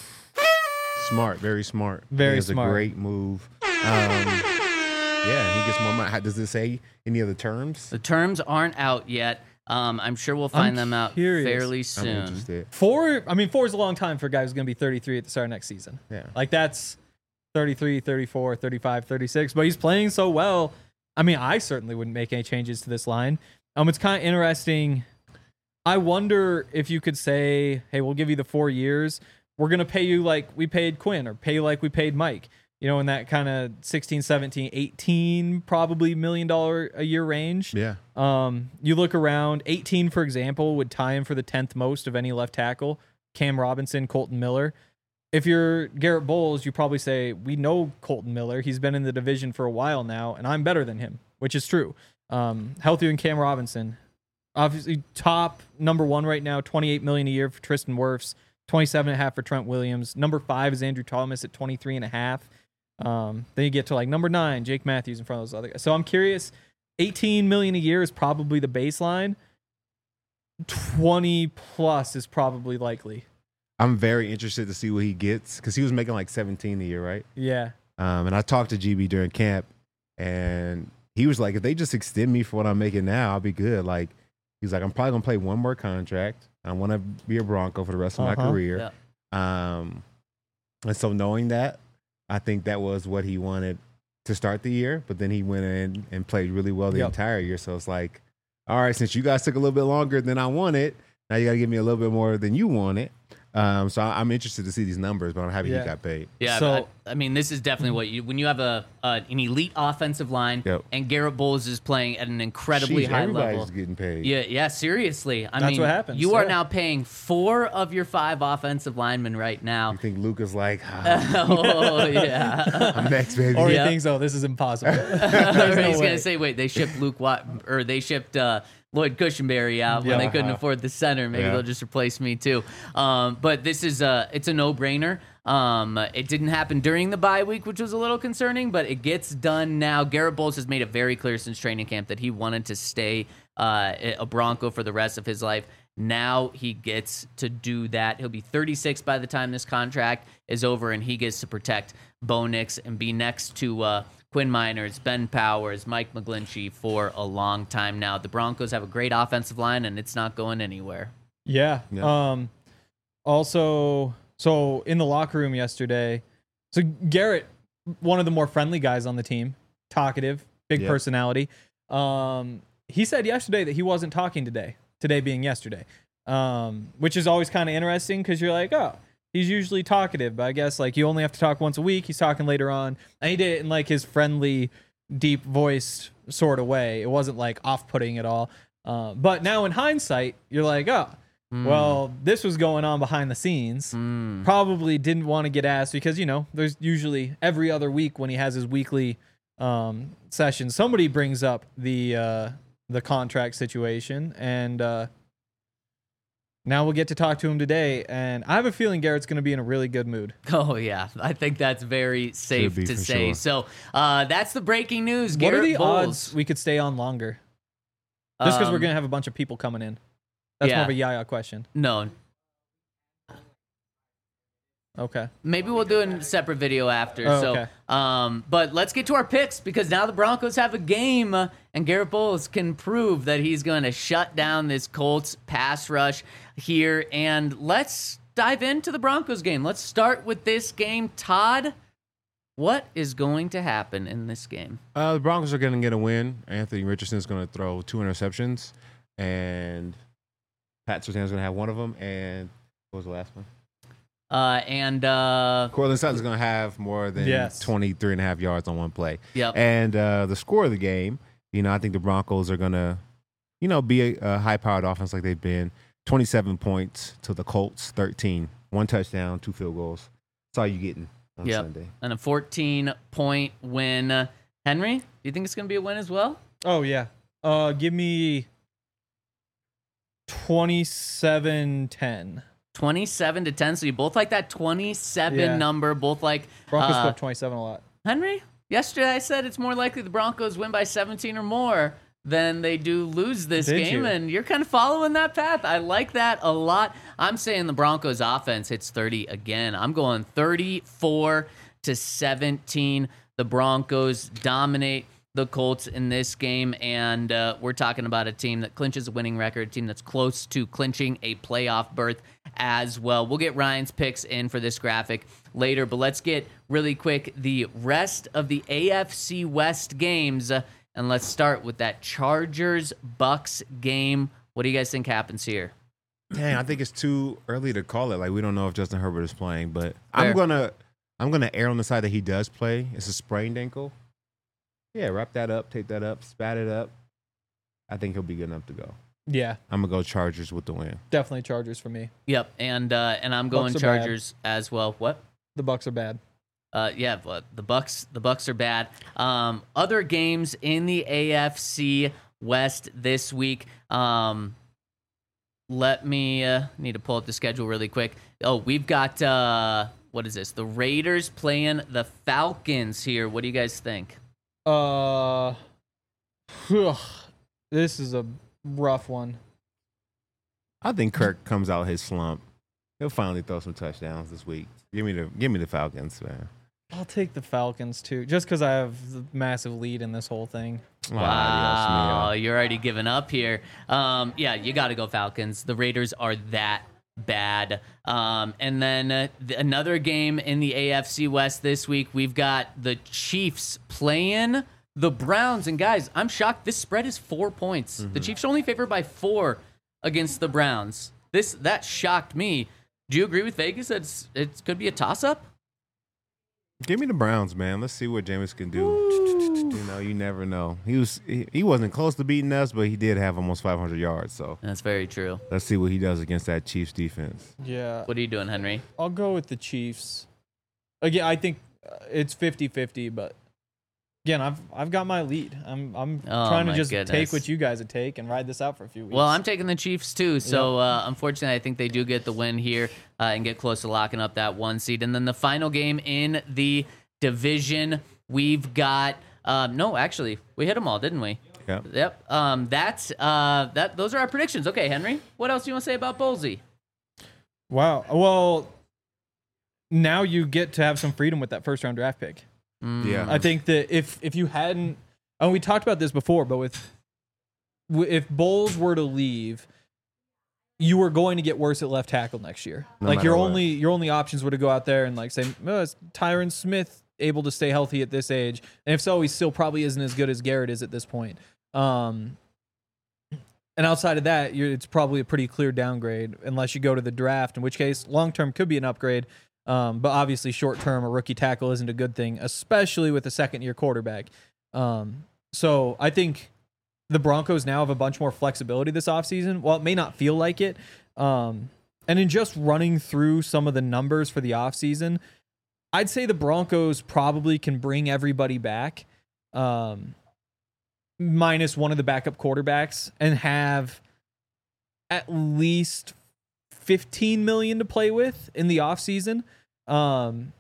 Smart, very smart. Very It's smart. a great move. Um, yeah, he gets more money. How- Does it say any of the terms? The terms aren't out yet. Um, I'm sure we'll find them out curious. fairly I'm soon. interested. Four, I mean, four is a long time for a guy who's going to be thirty-three at the start of next season. Yeah. Like that's thirty-three, thirty-four, thirty-five, thirty-six, but he's playing so well. I mean, I certainly wouldn't make any changes to this line. Um, it's kind of interesting. I wonder if you could say, hey, we'll give you the four years. We're going to pay you like we paid Quinn or pay you like we paid Mike, you know, in that kind of sixteen, seventeen, eighteen, probably million dollar a year range. Yeah. Um, you look around, eighteen, for example, would tie him for the tenth most of any left tackle. Cam Robinson, Colton Miller. If you're Garrett Bowles, you probably say, we know Colton Miller. He's been in the division for a while now, and I'm better than him, which is true. Um, healthier than Cam Robinson. Obviously, top number one right now, twenty-eight million dollars a year for Tristan Wirfs, twenty-seven and a half for Trent Williams. Number five is Andrew Thomas at twenty-three and a half. Um, then you get to like number nine, Jake Matthews in front of those other guys. So I'm curious, eighteen million dollars a year is probably the baseline. twenty plus is probably likely. I'm very interested to see what he gets because he was making like seventeen a year, right? Yeah. Um, and I talked to G B during camp, and he was like, if they just extend me for what I'm making now, I'll be good. Like, he's like, I'm probably going to play one more contract. I want to be a Bronco for the rest of Uh-huh. my career. Yeah. Um, and so knowing that, I think that was what he wanted to start the year. But then he went in and played really well the Yep. entire year. So it's like, all right, since you guys took a little bit longer than I wanted, now you got to give me a little bit more than you wanted. Um, so I- I'm interested to see these numbers, but I'm happy Yeah. he got paid. Yeah, So- I, I mean, this is definitely what you when you have a uh, an elite offensive line, Yep. and Garrett Bowles is playing at an incredibly Sheesh, high everybody's level. getting paid. Yeah, yeah, seriously. I That's mean, what happens, you are yeah. now paying four of your five offensive linemen right now. You think Luca's like, ah, Oh yeah. I'm next, baby. Or Yeah. he thinks, oh, this is impossible. Or There's no he's way. gonna say, wait, they shipped Luke Watt or they shipped uh, Lloyd Cushenberry out when Yeah. they couldn't afford the center. Maybe Yeah. they'll just replace me too. Um, but this is a it's a no brainer. Um, it didn't happen during the bye week, which was a little concerning, but it gets done now. Garrett Bowles has made it very clear since training camp that he wanted to stay uh, a Bronco for the rest of his life. Now he gets to do that. He'll be thirty-six by the time this contract is over, and he gets to protect Bo Nix and be next to uh, Quinn Miners, Ben Powers, Mike McGlinchey for a long time now. The Broncos have a great offensive line, and it's not going anywhere. Yeah. Yeah. Um, also, so in the locker room yesterday, so Garrett, one of the more friendly guys on the team, talkative, big Yeah. personality. Um, he said yesterday that he wasn't talking today, today being yesterday, um, which is always kind of interesting because you're like, oh, he's usually talkative, but I guess like you only have to talk once a week. He's talking later on. And he did it in like his friendly, deep voiced sort of way. It wasn't like off putting at all. Uh, but now in hindsight, you're like, oh, well, this was going on behind the scenes. Mm. Probably didn't want to get asked because, you know, there's usually every other week when he has his weekly um, session, somebody brings up the uh, the contract situation. And uh, now we'll get to talk to him today. And I have a feeling Garrett's going to be in a really good mood. Oh, yeah. I think that's very safe be to for say. sure. So uh, that's the breaking news. What Garrett are the Bowles. odds we could stay on longer? Just because we're Um, going to have a bunch of people coming in. That's yeah. more of a Yaya question. No, Okay. maybe we'll do a separate video after. Oh, so, okay. um, but let's get to our picks because now the Broncos have a game, uh, and Garrett Bowles can prove that he's going to shut down this Colts pass rush here. And let's dive into the Broncos game. Let's start with this game, Todd. What is going to happen in this game? Uh, the Broncos are going to get a win. Anthony Richardson is going to throw two interceptions, and Pat Surtain is going to have one of them. And what was the last one? Uh, and uh, Cortland Sutton is going to have more than Yes. twenty-three and a half yards on one play. yep. And uh, the score of the game, you know, I think the Broncos are going to, you know, be a, a high-powered offense like they've been. twenty-seven points to the Colts, thirteen. One touchdown, two field goals. That's all you're getting on Yep. Sunday. And a fourteen point win. Uh, Henry, do you think it's going to be a win as well? Oh, yeah. Uh, give me twenty-seven ten. twenty-seven to ten. So you both like that twenty-seven Yeah. number. Both like Broncos uh, put up twenty-seven a lot. Henry. Yesterday I said it's more likely the Broncos win by seventeen or more than they do lose this Did game, you? and you're kind of following that path. I like that a lot. I'm saying the Broncos offense hits thirty again. I'm going thirty-four to seventeen. The Broncos dominate the Colts in this game, and uh, we're talking about a team that clinches a winning record, a team that's close to clinching a playoff berth as well. We'll get Ryan's picks in for this graphic later, but let's get really quick the rest of the A F C West games, uh, and let's start with that Chargers-Bucks game. What do you guys think happens here? Dang, I think it's too early to call it. Like, we don't know if Justin Herbert is playing, but Fair. I'm gonna I'm gonna err on the side that he does play. It's a sprained ankle. Yeah, wrap that up, tape that up, spat it up. I think he'll be good enough to go. Yeah, I'm gonna go Chargers with the win. definitely Chargers for me. Yep, and uh, and I'm going Bucks are bad. Chargers as well. What? The Bucks are bad. Uh, yeah, but the Bucks, the Bucks are bad. Um, other games in the A F C West this week. Um, let me uh, need to pull up the schedule really quick. Oh, we've got uh, what is this? The Raiders playing the Falcons here. What do you guys think? Uh, this is a rough one. I think Kirk comes out his slump. He'll finally throw some touchdowns this week. Give me the give me the Falcons, man. I'll take the Falcons too, just because I have the massive lead in this whole thing. Wow, you're already giving up here. Um, yeah, you got to go Falcons. The Raiders are that bad. Um, and then uh, th- another game in the A F C West this week. We've got the Chiefs playing the Browns. And guys, I'm shocked. This spread is four points. Mm-hmm. The Chiefs are only favored by four against the Browns. This that shocked me. Do you agree with Vegas that it's, it could be a toss-up? Give me the Browns, man. Let's see what Jameis can do. Ooh. You know, you never know. He was he, he wasn't close to beating us, but he did have almost five hundred yards. So that's very true. Let's see what he does against that Chiefs defense. Yeah. What are you doing, Henry? I'll go with the Chiefs. Again, I think it's fifty-fifty, but again, I've I've got my lead. I'm I'm oh, trying to just goodness. take what you guys would take and ride this out for a few weeks. Well, I'm taking the Chiefs too. So uh, unfortunately, I think they do get the win here uh, and get close to locking up that one seed. And then the final game in the division, we've got um, no, actually, we hit them all, didn't we? Yep. Yep. Um, that's uh, that. Those are our predictions. Okay, Henry, what else do you want to say about Bowlesy? Wow. Well, now you get to have some freedom with that first round draft pick. Mm. Yeah. I think that if if you hadn't, and we talked about this before, but with if Bowles were to leave, you were going to get worse at left tackle next year. No like your what. only your only options were to go out there and like say, oh, is Tyron Smith able to stay healthy at this age? And if so, he still probably isn't as good as Garrett is at this point. Um, and outside of that, you're, it's probably a pretty clear downgrade unless you go to the draft, in which case long term could be an upgrade. Um, but obviously short term, a rookie tackle isn't a good thing, especially with a second year quarterback. Um, so I think the Broncos now have a bunch more flexibility this offseason. While it may not feel like it, um, and in just running through some of the numbers for the offseason, I'd say the Broncos probably can bring everybody back, um, minus one of the backup quarterbacks, and have at least fifteen million dollars to play with in the offseason. Um,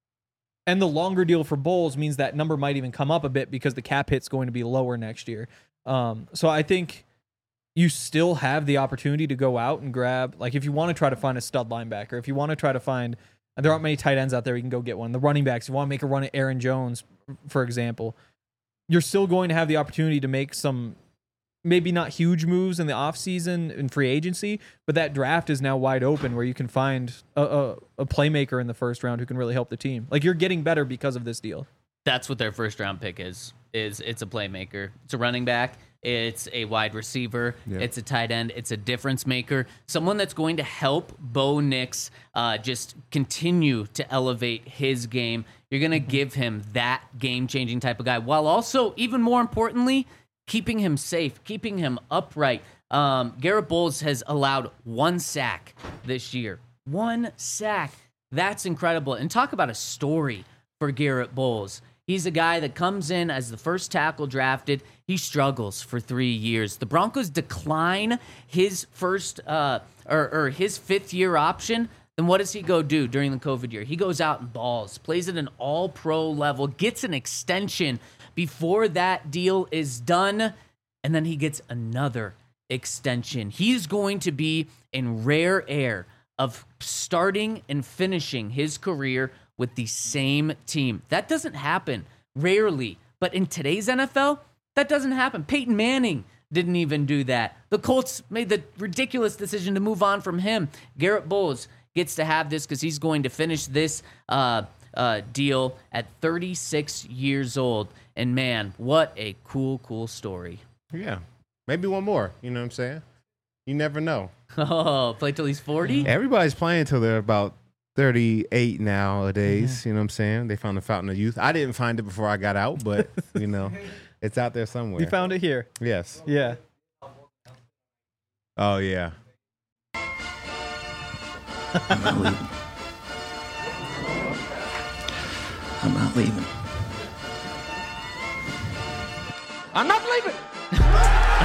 and the longer deal for Bowles means that number might even come up a bit because the cap hit's going to be lower next year. Um, so I think you still have the opportunity to go out and grab, like if you want to try to find a stud linebacker, if you want to try to find, there aren't many tight ends out there, you can go get one. The running backs, you want to make a run at Aaron Jones, for example, you're still going to have the opportunity to make some, maybe not huge moves in the offseason in free agency, but that draft is now wide open where you can find a, a, a playmaker in the first round who can really help the team. Like you're getting better because of this deal. That's what their first round pick is. Is it's a playmaker. It's a running back. It's a wide receiver. Yeah. It's a tight end. It's a difference maker. Someone that's going to help Bo Nix uh, just continue to elevate his game. You're going to mm-hmm. give him that game-changing type of guy, while also, even more importantly, keeping him safe, keeping him upright. Um, Garrett Bowles has allowed one sack this year. One sack. That's incredible. And talk about a story for Garrett Bowles. He's a guy that comes in as the first tackle drafted. He struggles for three years. The Broncos decline his first uh, or, or his fifth year option. Then what does he go do during the COVID year? He goes out and balls, plays at an all-pro level, gets an extension before that deal is done, and then he gets another extension. He's going to be in rare air of starting and finishing his career with the same team. That doesn't happen, rarely. But in today's N F L, that doesn't happen. Peyton Manning didn't even do that. The Colts made the ridiculous decision to move on from him. Garrett Bowles gets to have this because he's going to finish this uh, uh, deal at thirty-six years old. And man, what a cool, cool story. Yeah. Maybe one more. You know what I'm saying? You never know. Oh, play till he's forty? Everybody's playing till they're about thirty-eight nowadays. Mm-hmm. You know what I'm saying? They found the fountain of youth. I didn't find it before I got out, but, you know, it's out there somewhere. You found it here. Yes. Yeah. Oh, yeah. I'm not leaving. I'm not leaving. I'm not leaving.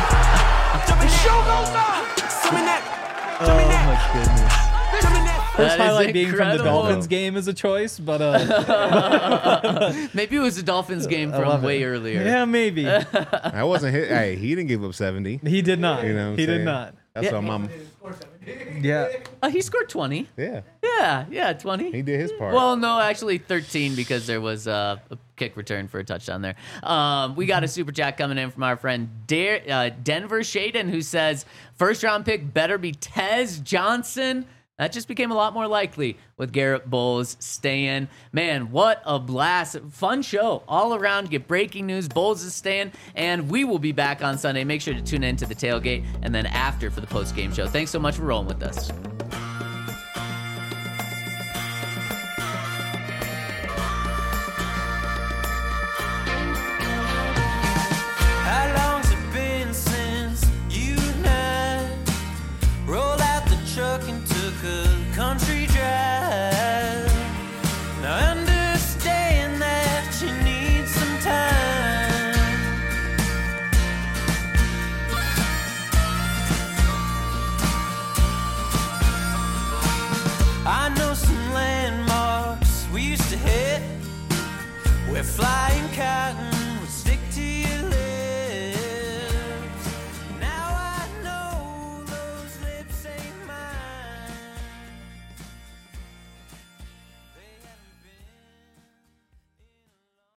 my goodness. First That is highlight being from the incredible. Dolphins game is a choice, but uh, Maybe it was a Dolphins game I love from it. way earlier. Yeah, maybe. I wasn't hit. Hey, he didn't give up seventy. He did not. You know what I'm he did saying? not. That's Yeah. what mom. Yeah. Uh, he scored twenty. Yeah, Yeah, yeah, twenty. he did his part. Well, no, actually thirteen because there was uh, a kick return for a touchdown there. Um, we got a super chat coming in from our friend Dare, uh, Denver Shaden, who says, first round pick better be Tez Johnson. That just became a lot more likely with Garrett Bowles staying. Man, what a blast. Fun show all around. Get breaking news. Bowles is staying. And we will be back on Sunday. Make sure to tune in to the tailgate and then after for the post-game show. Thanks so much for rolling with us.